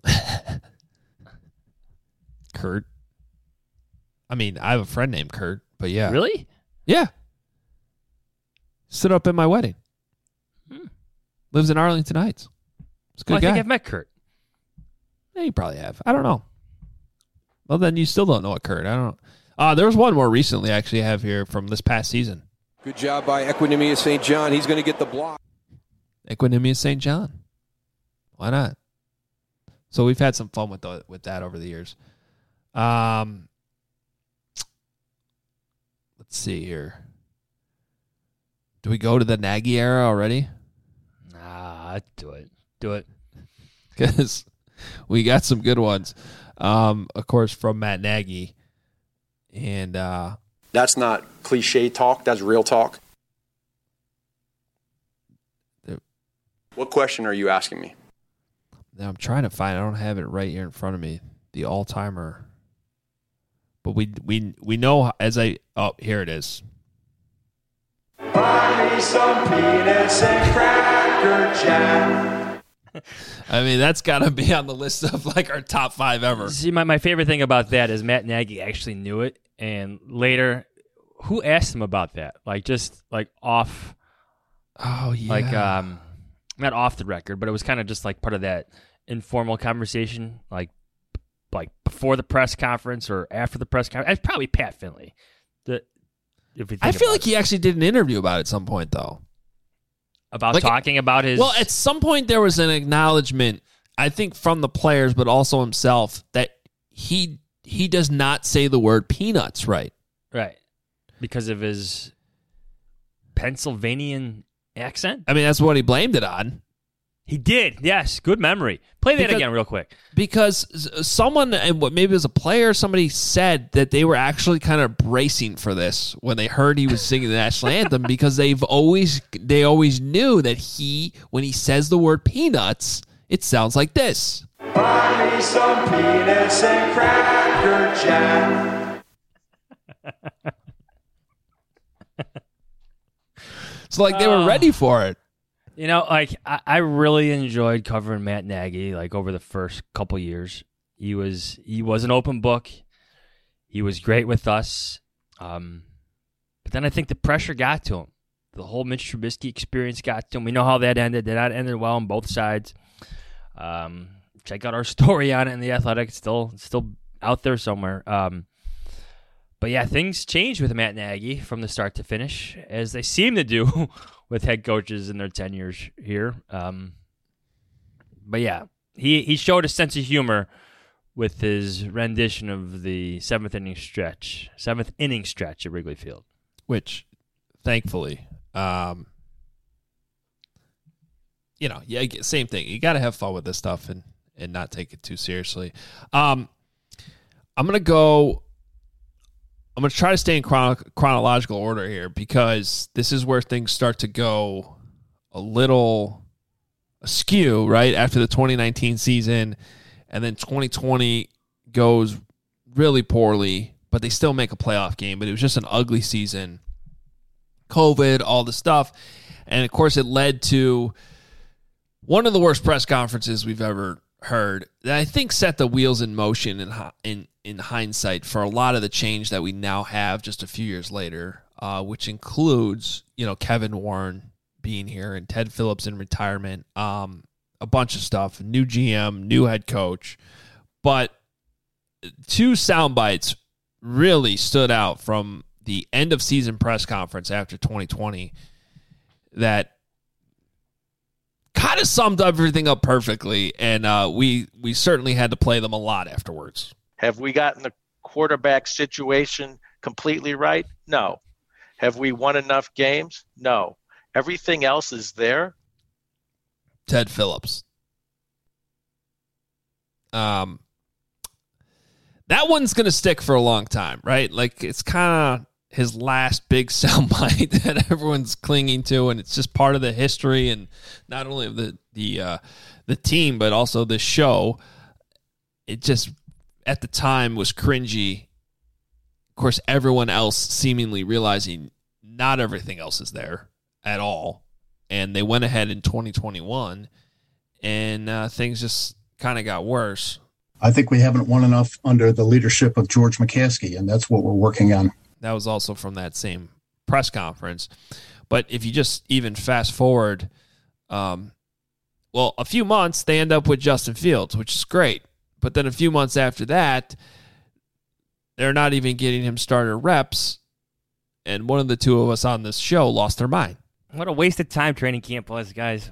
Kurt. I mean, I have a friend named Kurt, but yeah. Really? Yeah. Stood up at my wedding. Hmm. Lives in Arlington Heights. It's a good well, I guy. think I've met Kurt. Yeah, you probably have. I don't know. Well, then you still don't know a Kurt. I don't know. Uh, there was one more recently, actually, I have here from this past season. Good job by Equinemius Saint John. He's going to get the block. Equinemius Saint John. Why not? So we've had some fun with the, with that over the years. Um, let's see here. Do we go to the Nagy era already? Nah, do it. Do it. Because we got some good ones. Um, of course, from Matt Nagy. And uh, that's not cliche talk. That's real talk. The, what question are you asking me? I'm trying to find. I don't have it right here in front of me. The all-timer. But we we we know as I oh here it is. Buy me some peanuts and cracker jack. I mean, that's got to be on the list of like our top five ever. See, my, my favorite thing about that is Matt Nagy actually knew it, and later, who asked him about that? Like just like off. Oh yeah. Like um, not off the record, but it was kind of just like part of that informal conversation, like like before the press conference or after the press conference. It's probably Pat Finley. The, if we think I feel like it. he actually did an interview about it at some point, though. About like, talking about his... Well, at some point there was an acknowledgement, I think from the players, but also himself, that he he does not say the word peanuts right. Right. Because of his Pennsylvanian accent? I mean, that's what he blamed it on. He did, yes. Good memory. Play that because, again real quick. Because someone, and what maybe it was a player, somebody said that they were actually kind of bracing for this when they heard he was singing the national anthem, because they've always they always knew that he, when he says the word peanuts, it sounds like this. Buy me some peanuts and cracker jack. So like they were ready for it. You know, like I, I really enjoyed covering Matt Nagy. Like over the first couple years, he was he was an open book. He was great with us, um, but then I think the pressure got to him. The whole Mitch Trubisky experience got to him. We know how that ended. That ended well on both sides. Um, check out our story on it in the Athletic. It's still it's still out there somewhere. Um, but yeah, things changed with Matt Nagy from the start to finish, as they seem to do with head coaches in their tenures here. Um, but yeah, he, he showed a sense of humor with his rendition of the seventh inning stretch, seventh inning stretch at Wrigley Field. Which, thankfully, um, you know, yeah, same thing. You got to have fun with this stuff and, and not take it too seriously. Um, I'm going to go... I'm going to try to stay in chrono- chronological order here, because this is where things start to go a little askew, right? After the twenty nineteen season, and then twenty twenty goes really poorly, but they still make a playoff game, but it was just an ugly season. COVID, all the stuff. And, of course, it led to one of the worst press conferences we've ever heard that I think set the wheels in motion in in in hindsight for a lot of the change that we now have just a few years later, uh, which includes, you know, Kevin Warren being here and Ted Phillips in retirement, um, a bunch of stuff, new G M, new head coach. But two sound bites really stood out from the end of season press conference after twenty twenty that kind of summed everything up perfectly, and uh, we we certainly had to play them a lot afterwards. Have we gotten the quarterback situation completely right? No. Have we won enough games? No. Everything else is there. Ted Phillips. Um, that one's going to stick for a long time, right? Like, it's kind of his last big soundbite that everyone's clinging to, and it's just part of the history, and not only of the the uh, the team, but also the show. It just, at the time, was cringy. Of course, everyone else seemingly realizing not everything else is there at all, and they went ahead in twenty twenty-one, and uh, things just kind of got worse. I think we haven't won enough under the leadership of George McCaskey, and that's what we're working on. That was also from that same press conference. But if you just even fast forward, um, well, a few months, they end up with Justin Fields, which is great. But then a few months after that, they're not even getting him starter reps, and one of the two of us on this show lost their mind. What a waste of time training camp was, guys.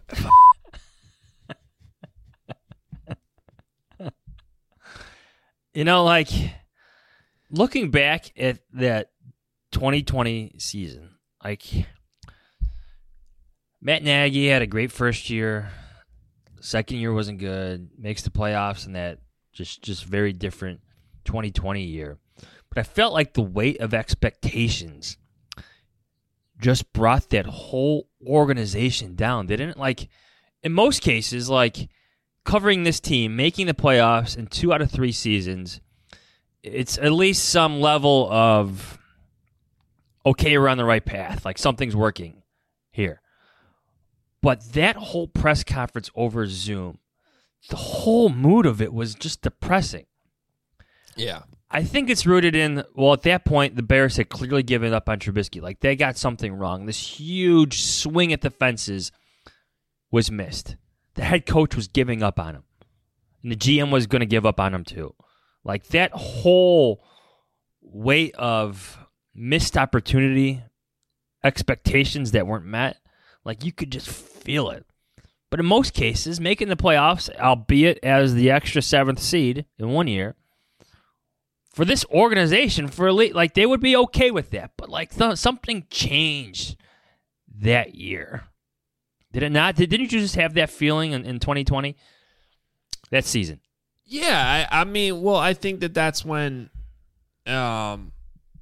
You know, like, looking back at that twenty twenty season, like, Matt Nagy had a great first year. Second year wasn't good. Makes the playoffs in that just, just very different twenty twenty year. But I felt like the weight of expectations just brought that whole organization down. They didn't, like, in most cases, like, covering this team, making the playoffs in two out of three seasons, it's at least some level of, okay, we're on the right path. Like, something's working here. But that whole press conference over Zoom, the whole mood of it was just depressing. Yeah. I think it's rooted in, well, at that point, the Bears had clearly given up on Trubisky. Like, they got something wrong. This huge swing at the fences was missed. The head coach was giving up on him. And the G M was going to give up on him too. Like, that whole weight of missed opportunity, expectations that weren't met, like, you could just feel it. But in most cases, making the playoffs, albeit as the extra seventh seed in one year, for this organization, for elite, like, they would be okay with that. But, like, th- something changed that year. Did it not? Did, didn't you just have that feeling in, in twenty twenty? That season? Yeah, I, I mean, well, I think that that's when, um,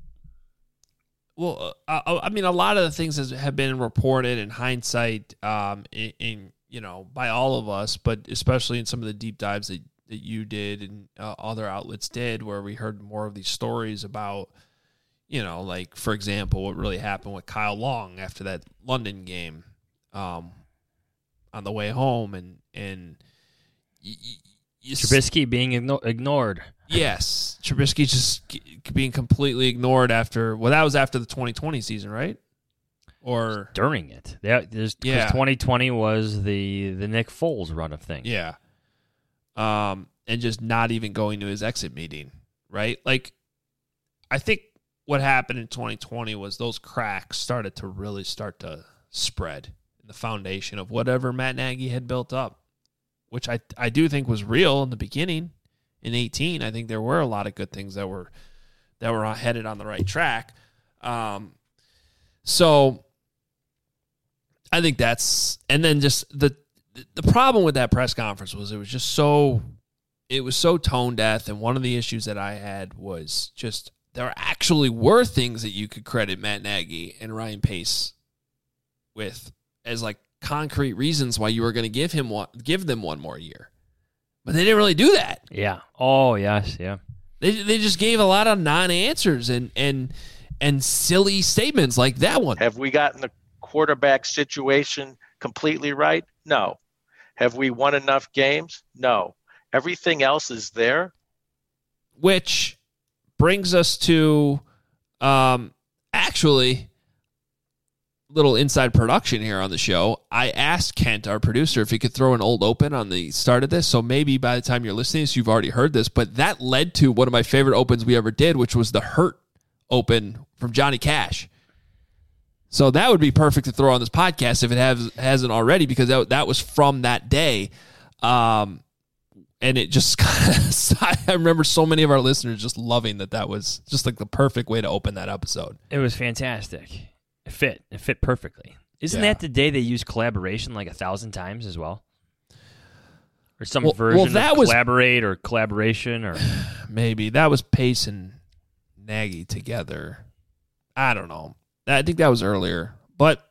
well, I, I mean, a lot of the things that have been reported in hindsight, um, in, in you know, by all of us, but especially in some of the deep dives that, that you did and uh, other outlets did, where we heard more of these stories about, you know, like, for example, what really happened with Kyle Long after that London game. Um, on the way home, and and y- y- y- Trubisky being igno- ignored. Yes, Trubisky just g- being completely ignored after. Well, that was after the twenty twenty season, right? Or during it. That there's yeah, twenty twenty was the the Nick Foles run of things. Yeah. Um, and just not even going to his exit meeting, right? Like, I think what happened in twenty twenty was those cracks started to really start to spread. The foundation of whatever Matt Nagy had built up, which I I do think was real in the beginning. In eighteen, I think there were a lot of good things that were that were headed on the right track. Um, so I think that's, and then just the the problem with that press conference was it was just so it was so tone deaf, and one of the issues that I had was just there actually were things that you could credit Matt Nagy and Ryan Pace with as like concrete reasons why you were going to give him one, give them one more year, but they didn't really do that. Yeah. Oh yes. Yeah. They they just gave a lot of non-answers and and and silly statements like that one. Have we gotten the quarterback situation completely right? No. Have we won enough games? No. Everything else is there. Which brings us to um actually. Little inside production here on the show. I asked Kent, our producer, if he could throw an old open on the start of this. So maybe by the time you're listening, so you've already heard this, but that led to one of my favorite opens we ever did, which was the Hurt open from Johnny Cash. So that would be perfect to throw on this podcast if it has, hasn't already, because that, that was from that day. Um, and it just kind of, I remember so many of our listeners just loving that that was just like the perfect way to open that episode. It was fantastic. It fit. It fit perfectly. Isn't Yeah. that the day they used collaboration like a thousand times as well? Or some Well- version well, that of was- collaborate or collaboration or Maybe. That was Pace and Nagy together. I don't know. I think that was earlier. But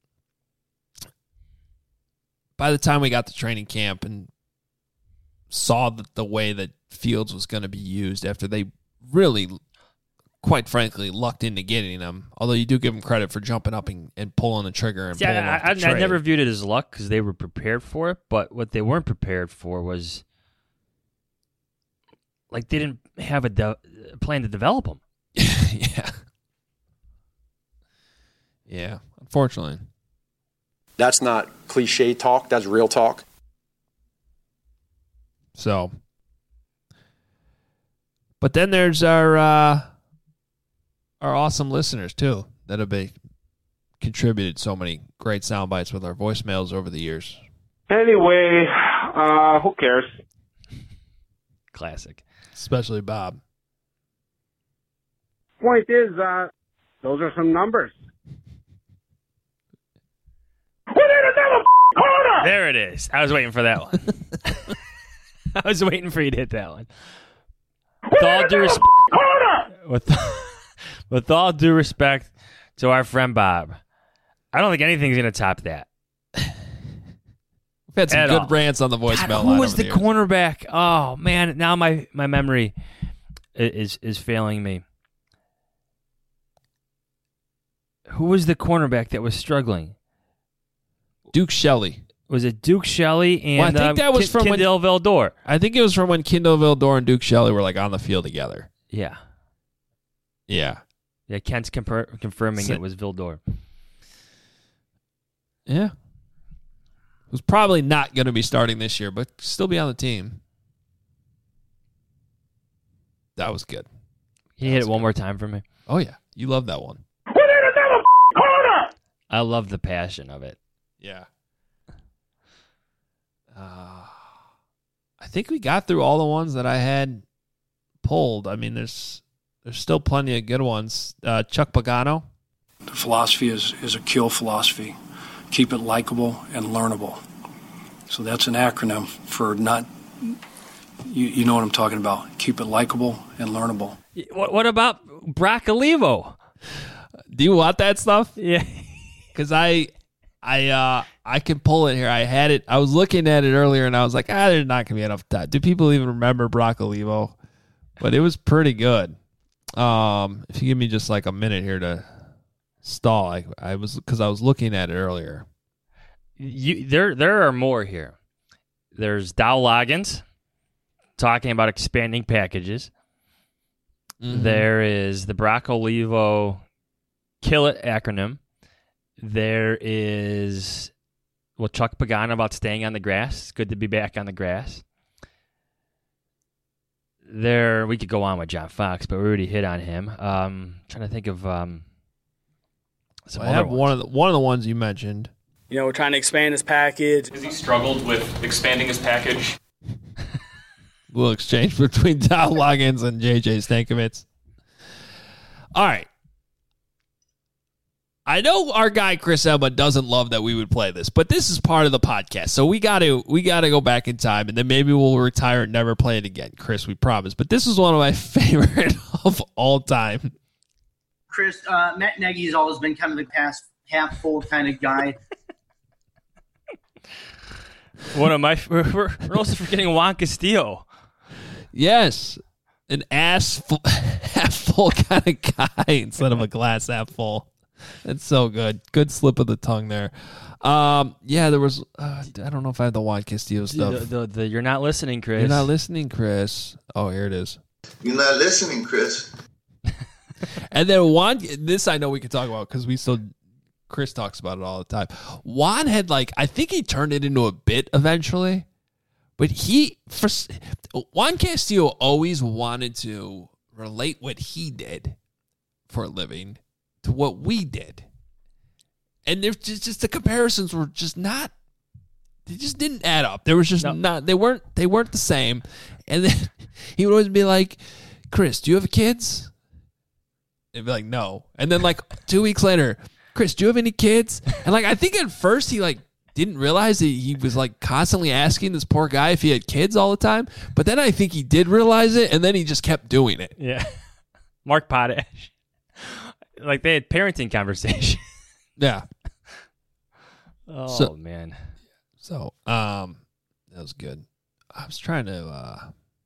by the time we got to training camp and saw the, the way that Fields was going to be used after they really, quite frankly, lucked into getting him, although you do give him credit for jumping up and, and pulling the trigger and See, pulling I, off the I, I trade. never viewed it as luck because they were prepared for it. But what they weren't prepared for was like they didn't have a de- plan to develop him. yeah. Yeah, unfortunately. That's not cliche talk. That's real talk. So, But then there's our uh, our awesome listeners, too, that have been, contributed so many great sound bites with our voicemails over the years. Anyway, uh, who cares? Classic. Especially Bob. Point is, uh, those are some numbers. There it is. I was waiting for that one. I was waiting for you to hit that one. With all due respect, with, with all due respect to our friend Bob, I don't think anything's going to top that. We've had some At good all. rants on the voicemail God, line who was over the the years. cornerback? Oh, man. Now my, my memory is is failing me. Who was the cornerback that was struggling? Duke Shelley. Was it Duke Shelley and Well, I think um, that was Kin- from when- Kendall Vildor? I think it was from when Kendall Vildor and Duke Shelley were like on the field together. Yeah. Yeah. Yeah, Kent's compar- confirming So- it was Vildor. Yeah. Who's probably not going to be starting this year, but still be on the team. That was good. Can you hit it one more time for me? Oh, yeah. You love that one. I love the passion of it. Yeah. Uh, I think we got through all the ones that I had pulled. I mean, there's there's still plenty of good ones. Uh, Chuck Pagano. The philosophy is, is a kill philosophy. Keep it likable and learnable. So that's an acronym for not, you, you know what I'm talking about. Keep it likable and learnable. What, what about Brock Olivo? Do you want that stuff? Yeah. Because I, I, uh, I can pull it here. I had it. I was looking at it earlier, and I was like, ah, there's not gonna be enough time. Do people even remember Brock Olivo? But it was pretty good. Um, if you give me just like a minute here to stall, I, I was because I was looking at it earlier. You, there, there are more here. There's Dow Loggins talking about expanding packages. Mhm. There is the Brock Olivo Kill It acronym. There is, well, Chuck Pagano about staying on the grass. It's good to be back on the grass. There, we could go on with John Fox, but we already hit on him. Um, trying to think of um, some Well, I other have ones. one of the one of the ones you mentioned. You know, we're trying to expand his package. Has he struggled with expanding his package? We'll exchange between Dow Loggins and J J Stankovitz. All right. I know our guy Chris Emma doesn't love that we would play this, but this is part of the podcast, so we got to we got to go back in time, and then maybe we'll retire and never play it again, Chris. We promise. But this is one of my favorite of all time. Chris, uh, Matt Nagy has always been kind of the pass half full kind of guy. One of my, we're, we're we're also forgetting Juan Castillo. Yes, an ass full, half full kind of guy instead of a glass half full. That's so good. Good slip of the tongue there. Um, yeah, there was. Uh, I don't know if I have the Juan Castillo stuff. The, the, the, you're not listening, Chris. You're not listening, Chris. Oh, here it is. You're not listening, Chris. And then Juan, this I know we can talk about because we still, Chris talks about it all the time. Juan had like, I think he turned it into a bit eventually, but he, for Juan Castillo always wanted to relate what he did for a living to what we did. And there's just, just the comparisons were just not, they just didn't add up. There was just No. not, they weren't, they weren't the same. And then he would always be like, Chris, do you have kids? They'd be like, no. And then like two weeks later, Chris, do you have any kids? And like, I think at first he like didn't realize that he was like constantly asking this poor guy if he had kids all the time. But then I think he did realize it, and then he just kept doing it. Yeah. Mark Potash. Like they had parenting conversation. Yeah. Oh, So- man. So, um, that was good. I was trying to, uh,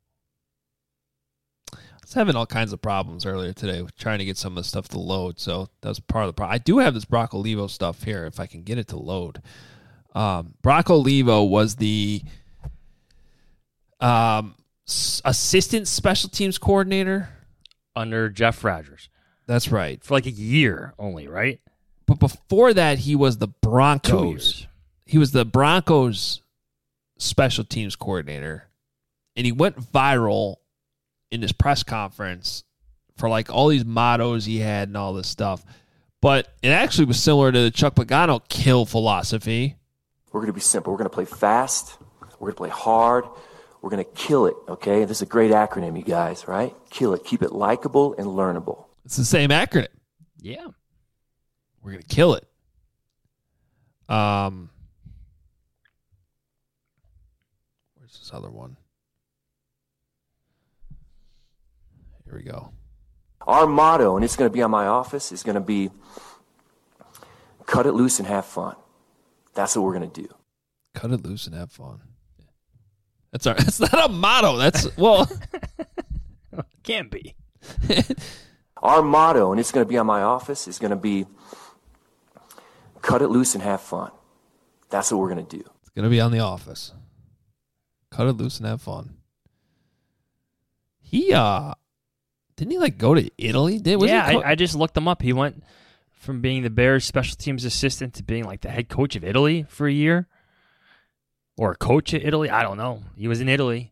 I was having all kinds of problems earlier today with trying to get some of the stuff to load. So that was part of the problem. I do have this Brock Olivo stuff here if I can get it to load. Um, Brock Olivo was the um, s- assistant special teams coordinator Under Jeff Rogers. That's right. For like a year only, right? But before that, he was the Two Broncos. years. He was the Broncos special teams coordinator, and he went viral in this press conference for like all these mottos he had and all this stuff. But it actually was similar to the Chuck Pagano kill philosophy. We're going to be simple. We're going to play fast. We're going to play hard. We're going to kill it, okay? This is a great acronym, you guys, right? Kill it. Keep it likable and learnable. It's the same acronym. Yeah. We're going to kill it. Um, where's this other one? Here we go. Our motto, and it's going to be on my office, is going to be cut it loose and have fun. That's what we're going to do. Cut it loose and have fun. That's our, that's not a motto. That's, well. Can't be. Our motto, and it's going to be on my office, is going to be cut it loose and have fun. That's what we're going to do. It's going to be on the office. Cut it loose and have fun. He, uh, didn't he like go to Italy? Did, was yeah, he co- I, I just looked him up. He went from being the Bears special teams assistant to being like the head coach of Italy for a year. Or a coach at Italy. I don't know. He was in Italy.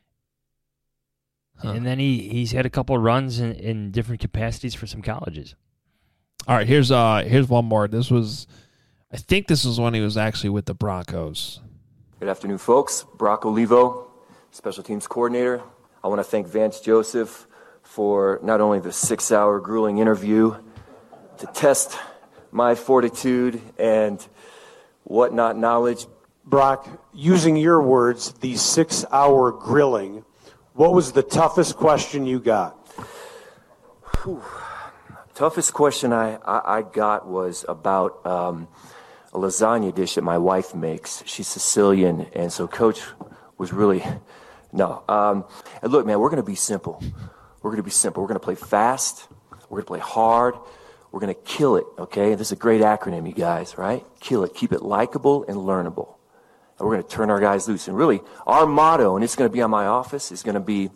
Huh. And then he, he's had a couple of runs in, in different capacities for some colleges. All right, here's uh here's one more. This was, I think this was when he was actually with the Broncos. Good afternoon, folks. Brock Olivo, special teams coordinator. I want to thank Vance Joseph for not only the six-hour grueling interview to test my fortitude and whatnot knowledge. Brock, using your words, the six-hour grilling, what was the toughest question you got? Whew. Toughest question I, I, I got was about um, a lasagna dish that my wife makes. She's Sicilian, and so Coach was really, no. Um, and look, man, we're going to be simple. We're going to be simple. We're going to play fast. We're going to play hard. We're going to kill it, okay? This is a great acronym, you guys, right? Kill it. Keep it likable and learnable. And we're going to turn our guys loose. And really, our motto, and it's going to be on my office, is going to be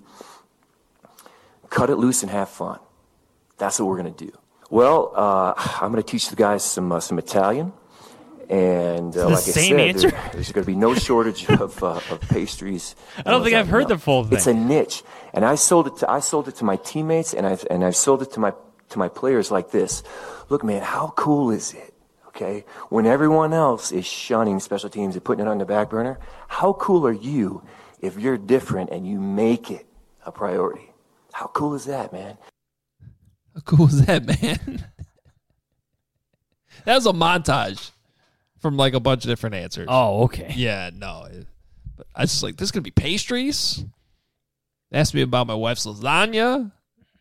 cut it loose and have fun. That's what we're going to do. Well, uh, I'm going to teach the guys some uh, some Italian. And uh, like I said, there, there's going to be no shortage of, uh, of pastries. I don't think I've heard the full thing. It's a niche. And I sold it to I sold it to my teammates, and I've, and I've sold it to my, to my players like this. Look, man, how cool is it? Okay, when everyone else is shunning special teams and putting it on the back burner, how cool are you if you're different and you make it a priority? How cool is that, man? How cool is that, man? That was a montage from like a bunch of different answers. Oh, okay. Yeah, no. But I was just like, this is going to be pastries? Asked me about my wife's lasagna.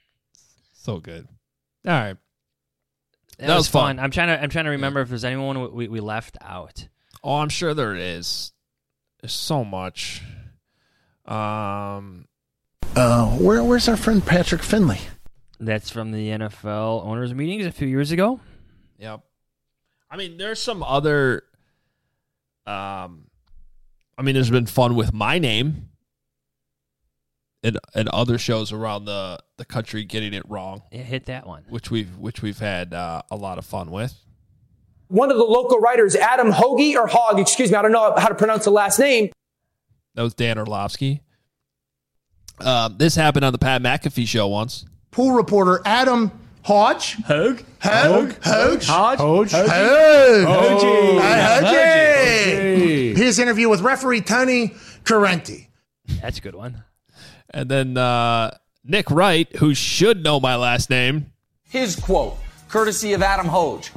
So good. All right. That, that was, was fun. fun. I'm trying to I'm trying to remember if there's anyone we, we left out. Oh, I'm sure there is. There's so much. Um, uh, where where's our friend Patrick Finley? That's from the N F L owners meetings a few years ago. Yep. I mean, there's some other. Um, I mean, there's been fun with my name. And, and other shows around the, the country getting it wrong. Yeah, hit that one. Which we've which we've had uh, a lot of fun with. One of the local writers, Adam Hoagie, or Hogg, excuse me, I don't know how to pronounce the last name. That was Dan Orlovsky. Um, this happened on the Pat McAfee show once. Pool reporter Adam Hodge. Hogue. Hogue. Hodge. Hodge. Hodge. Hodge. Hodge. His interview with referee Tony Correnti. That's a good one. And then uh, Nick Wright, who should know my last name. His quote, courtesy of Adam Hoge.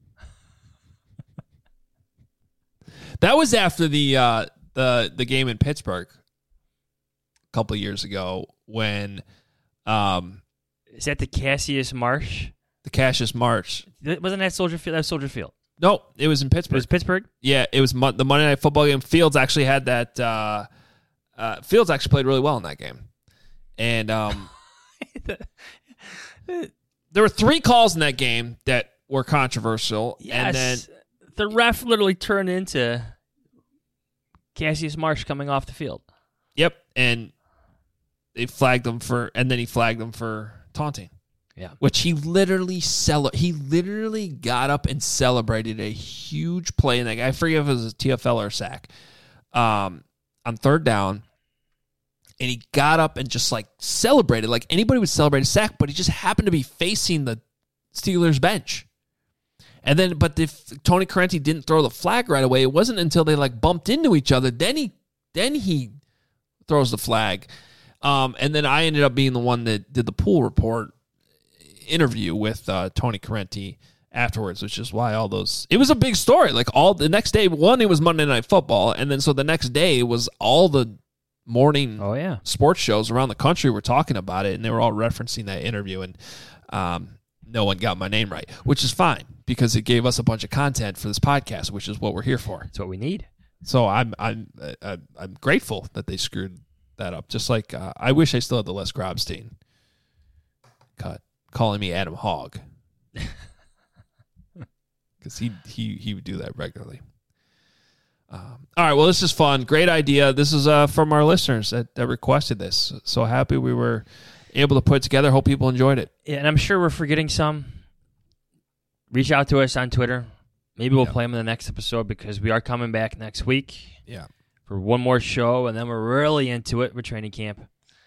That was after the uh, the the game in Pittsburgh a couple of years ago when. Um, Is that the Cassius Marsh? The Cassius Marsh. Wasn't that Soldier Field? That was Soldier Field. No, it was in Pittsburgh. It was Pittsburgh? Yeah, it was mo- the Monday Night Football game. Fields actually had that. Uh, uh, Fields actually played really well in that game. And um, there were three calls in that game that were controversial. Yes. And then the ref literally turned into Cassius Marsh coming off the field. Yep. And they flagged him for, and then he flagged him for taunting. Yeah. Which he literally cele- he literally got up and celebrated a huge play in that game. I forget if it was a T F L or a sack. Um, on third down. and he got up and just like celebrated like anybody would celebrate a sack, but he just happened to be facing the Steelers bench. And then, but if Tony Corrente didn't throw the flag right away, it wasn't until they like bumped into each other. Then he, then he throws the flag. Um, and then I ended up being the one that did the pool report interview with uh, Tony Corrente afterwards, which is why all those, it was a big story. Like all the next day, one, it was Monday Night Football. And then so the next day was all the morning oh, yeah. sports shows around the country were talking about it. And they were all referencing that interview. And um, no one got my name right, which is fine because it gave us a bunch of content for this podcast, which is what we're here for. That's what we need. So I'm I'm I'm, I'm grateful that they screwed that up. Just like uh, I wish I still had the Les Grobstein cut calling me Adam Hogg, because he he he would do that regularly. Um, all right, well, this is fun. Great idea. This is uh, from our listeners that, that requested this. So happy we were able to put it together. Hope people enjoyed it. Yeah, and I'm sure we're forgetting some. Reach out to us on Twitter. Maybe we'll yeah. play them in the next episode because we are coming back next week. Yeah. For one more show, and then we're really into it with training camp.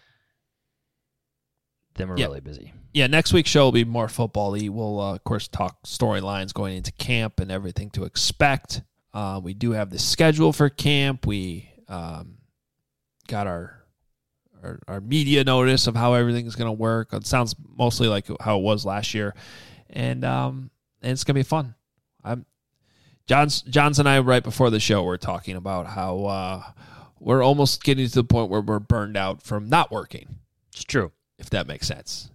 Then we're yeah. really busy. Yeah, next week's show will be more football-y. We'll, uh, of course, talk storylines going into camp and everything to expect. Uh, we do have the schedule for camp. We um, got our, our our media notice of how everything's going to work. It sounds mostly like how it was last year. And, um, and it's going to be fun. I'm John's, John's and I, right before the show, were talking about how uh, we're almost getting to the point where we're burned out from not working. It's true. If that makes sense.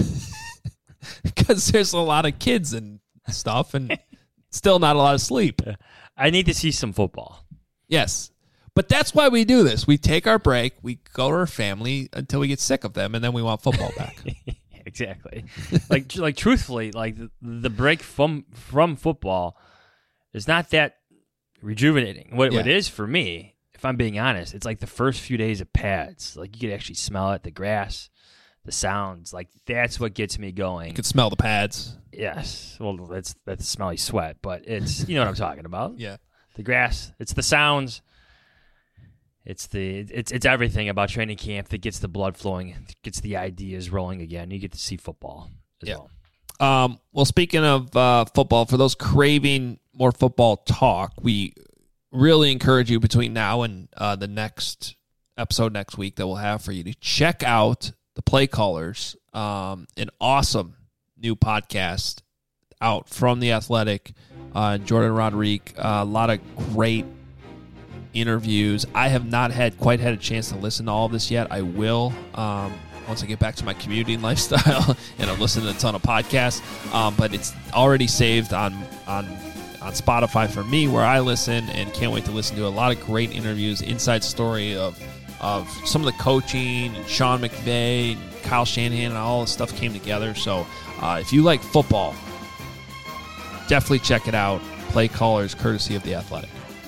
Because there's a lot of kids and stuff and still not a lot of sleep. I need to see some football. Yes. But that's why we do this. We take our break, we go to our family until we get sick of them, and then we want football back. Exactly. like, like truthfully, like the, the break from from football is not that rejuvenating. What, Yeah. what it is for me, if I'm being honest, it's like the first few days of pads. Like you could actually smell it, the grass, the sounds. Like that's what gets me going. You can smell the pads. Yes. Well, that's that's smelly sweat, but it's, you know what I'm talking about. Yeah. The grass, it's the sounds. It's the it's it's everything about training camp that gets the blood flowing, gets the ideas rolling again. You get to see football as Yeah. well. Um, well, speaking of uh, football, for those craving more football talk, we really encourage you between now and uh, the next episode next week that we'll have for you to check out the Play Callers, um, an awesome new podcast out from The Athletic, uh, Jordan Rodrigue, uh, a lot of great interviews. I have not had quite had a chance to listen to all of this yet. I will um, once I get back to my commuting lifestyle and I'm listening to a ton of podcasts. Um, but it's already saved on on on Spotify for me where I listen, and can't wait to listen to a lot of great interviews, inside story of of some of the coaching and Sean McVay and Kyle Shanahan and all this stuff came together. So uh, if you like football, definitely check it out. Play Callers, courtesy of The Athletic.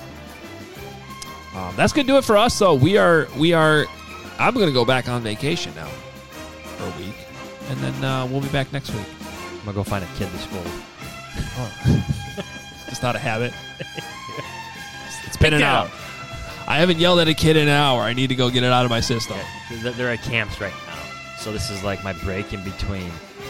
Um, that's gonna do it for us. So we are we are. I'm gonna go back on vacation now for a week, and then uh, we'll be back next week. I'm gonna go find a kid to school. Oh. Just not a habit. It's been Pick an it hour. up. I haven't yelled at a kid in an hour. I need to go get it out of my system. Yeah, they're- they're at camps right now, so this is like my break in between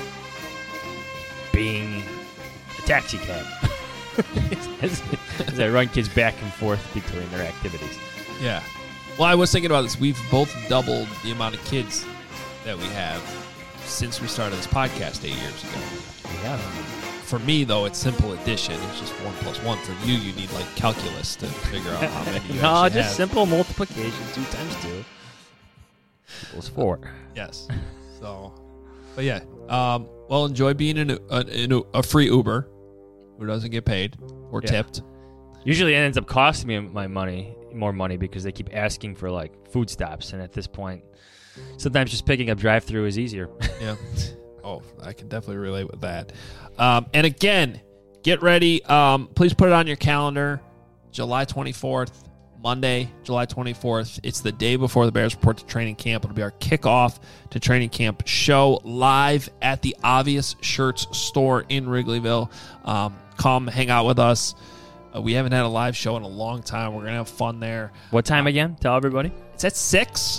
being a taxi cab. as, as I run kids back and forth between their activities. Yeah. Well, I was thinking about this. We've both doubled the amount of kids that we have since we started this podcast eight years ago. Yeah. For me, though, it's simple addition. It's just one plus one. For you, you need like calculus to figure out how many you no, actually just have. simple multiplication. Two times two equals four. Yes. So, but yeah. Um, well, enjoy being in a, a, in a, a free Uber who doesn't get paid or Yeah. tipped. Usually it ends up costing me my money, more money, because they keep asking for like food stops, and at this point, sometimes just picking up drive-through is easier. Yeah. Oh, I can definitely relate with that. Um, and again, get ready. Um, please put it on your calendar. July twenty-fourth, Monday, July twenty-fourth. It's the day before the Bears report to training camp. It'll be our kickoff to training camp show live at the Obvious Shirts store in Wrigleyville. Um, come hang out with us. Uh, we haven't had a live show in a long time. We're going to have fun there. What time again? Tell everybody. It's at six. six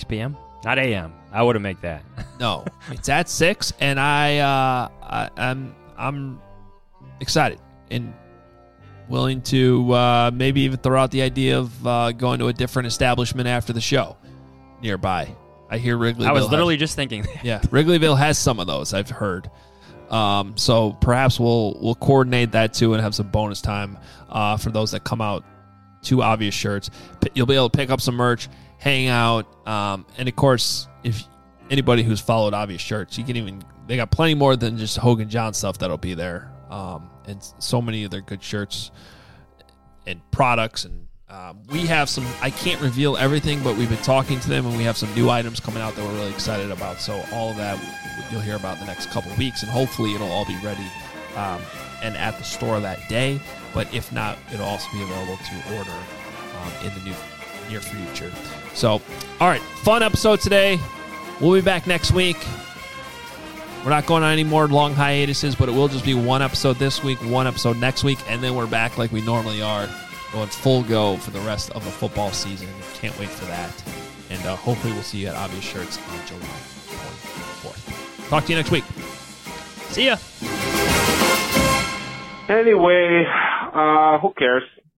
p.m.? Not a m. I wouldn't make that. No, it's at six, and I, uh, I I'm I'm excited and willing to uh, maybe even throw out the idea of uh, going to a different establishment after the show nearby. I hear Wrigleyville. I was literally has, just thinking that. Yeah, Wrigleyville has some of those, I've heard. Um, so perhaps we'll we'll coordinate that too and have some bonus time uh, for those that come out to Obvious Shirts. You'll be able to pick up some merch, hang out, um, and of course, if anybody who's followed Obvious Shirts, you can even they got plenty more than just Hogan John stuff that'll be there, um, and so many of their good shirts and products. And um, we have some. I can't reveal everything, but we've been talking to them, and we have some new items coming out that we're really excited about. So all of that you'll hear about in the next couple of weeks, and hopefully it'll all be ready um, and at the store that day. But if not, it'll also be available to order um, in the new near future. So, all right, fun episode today. We'll be back next week. We're not going on any more long hiatuses, but it will just be one episode this week, one episode next week, and then we're back like we normally are, going full go for the rest of the football season. Can't wait for that. And uh, hopefully we'll see you at Obvious Shirts on July twenty-fourth. Talk to you next week. See ya. Anyway, uh, who cares?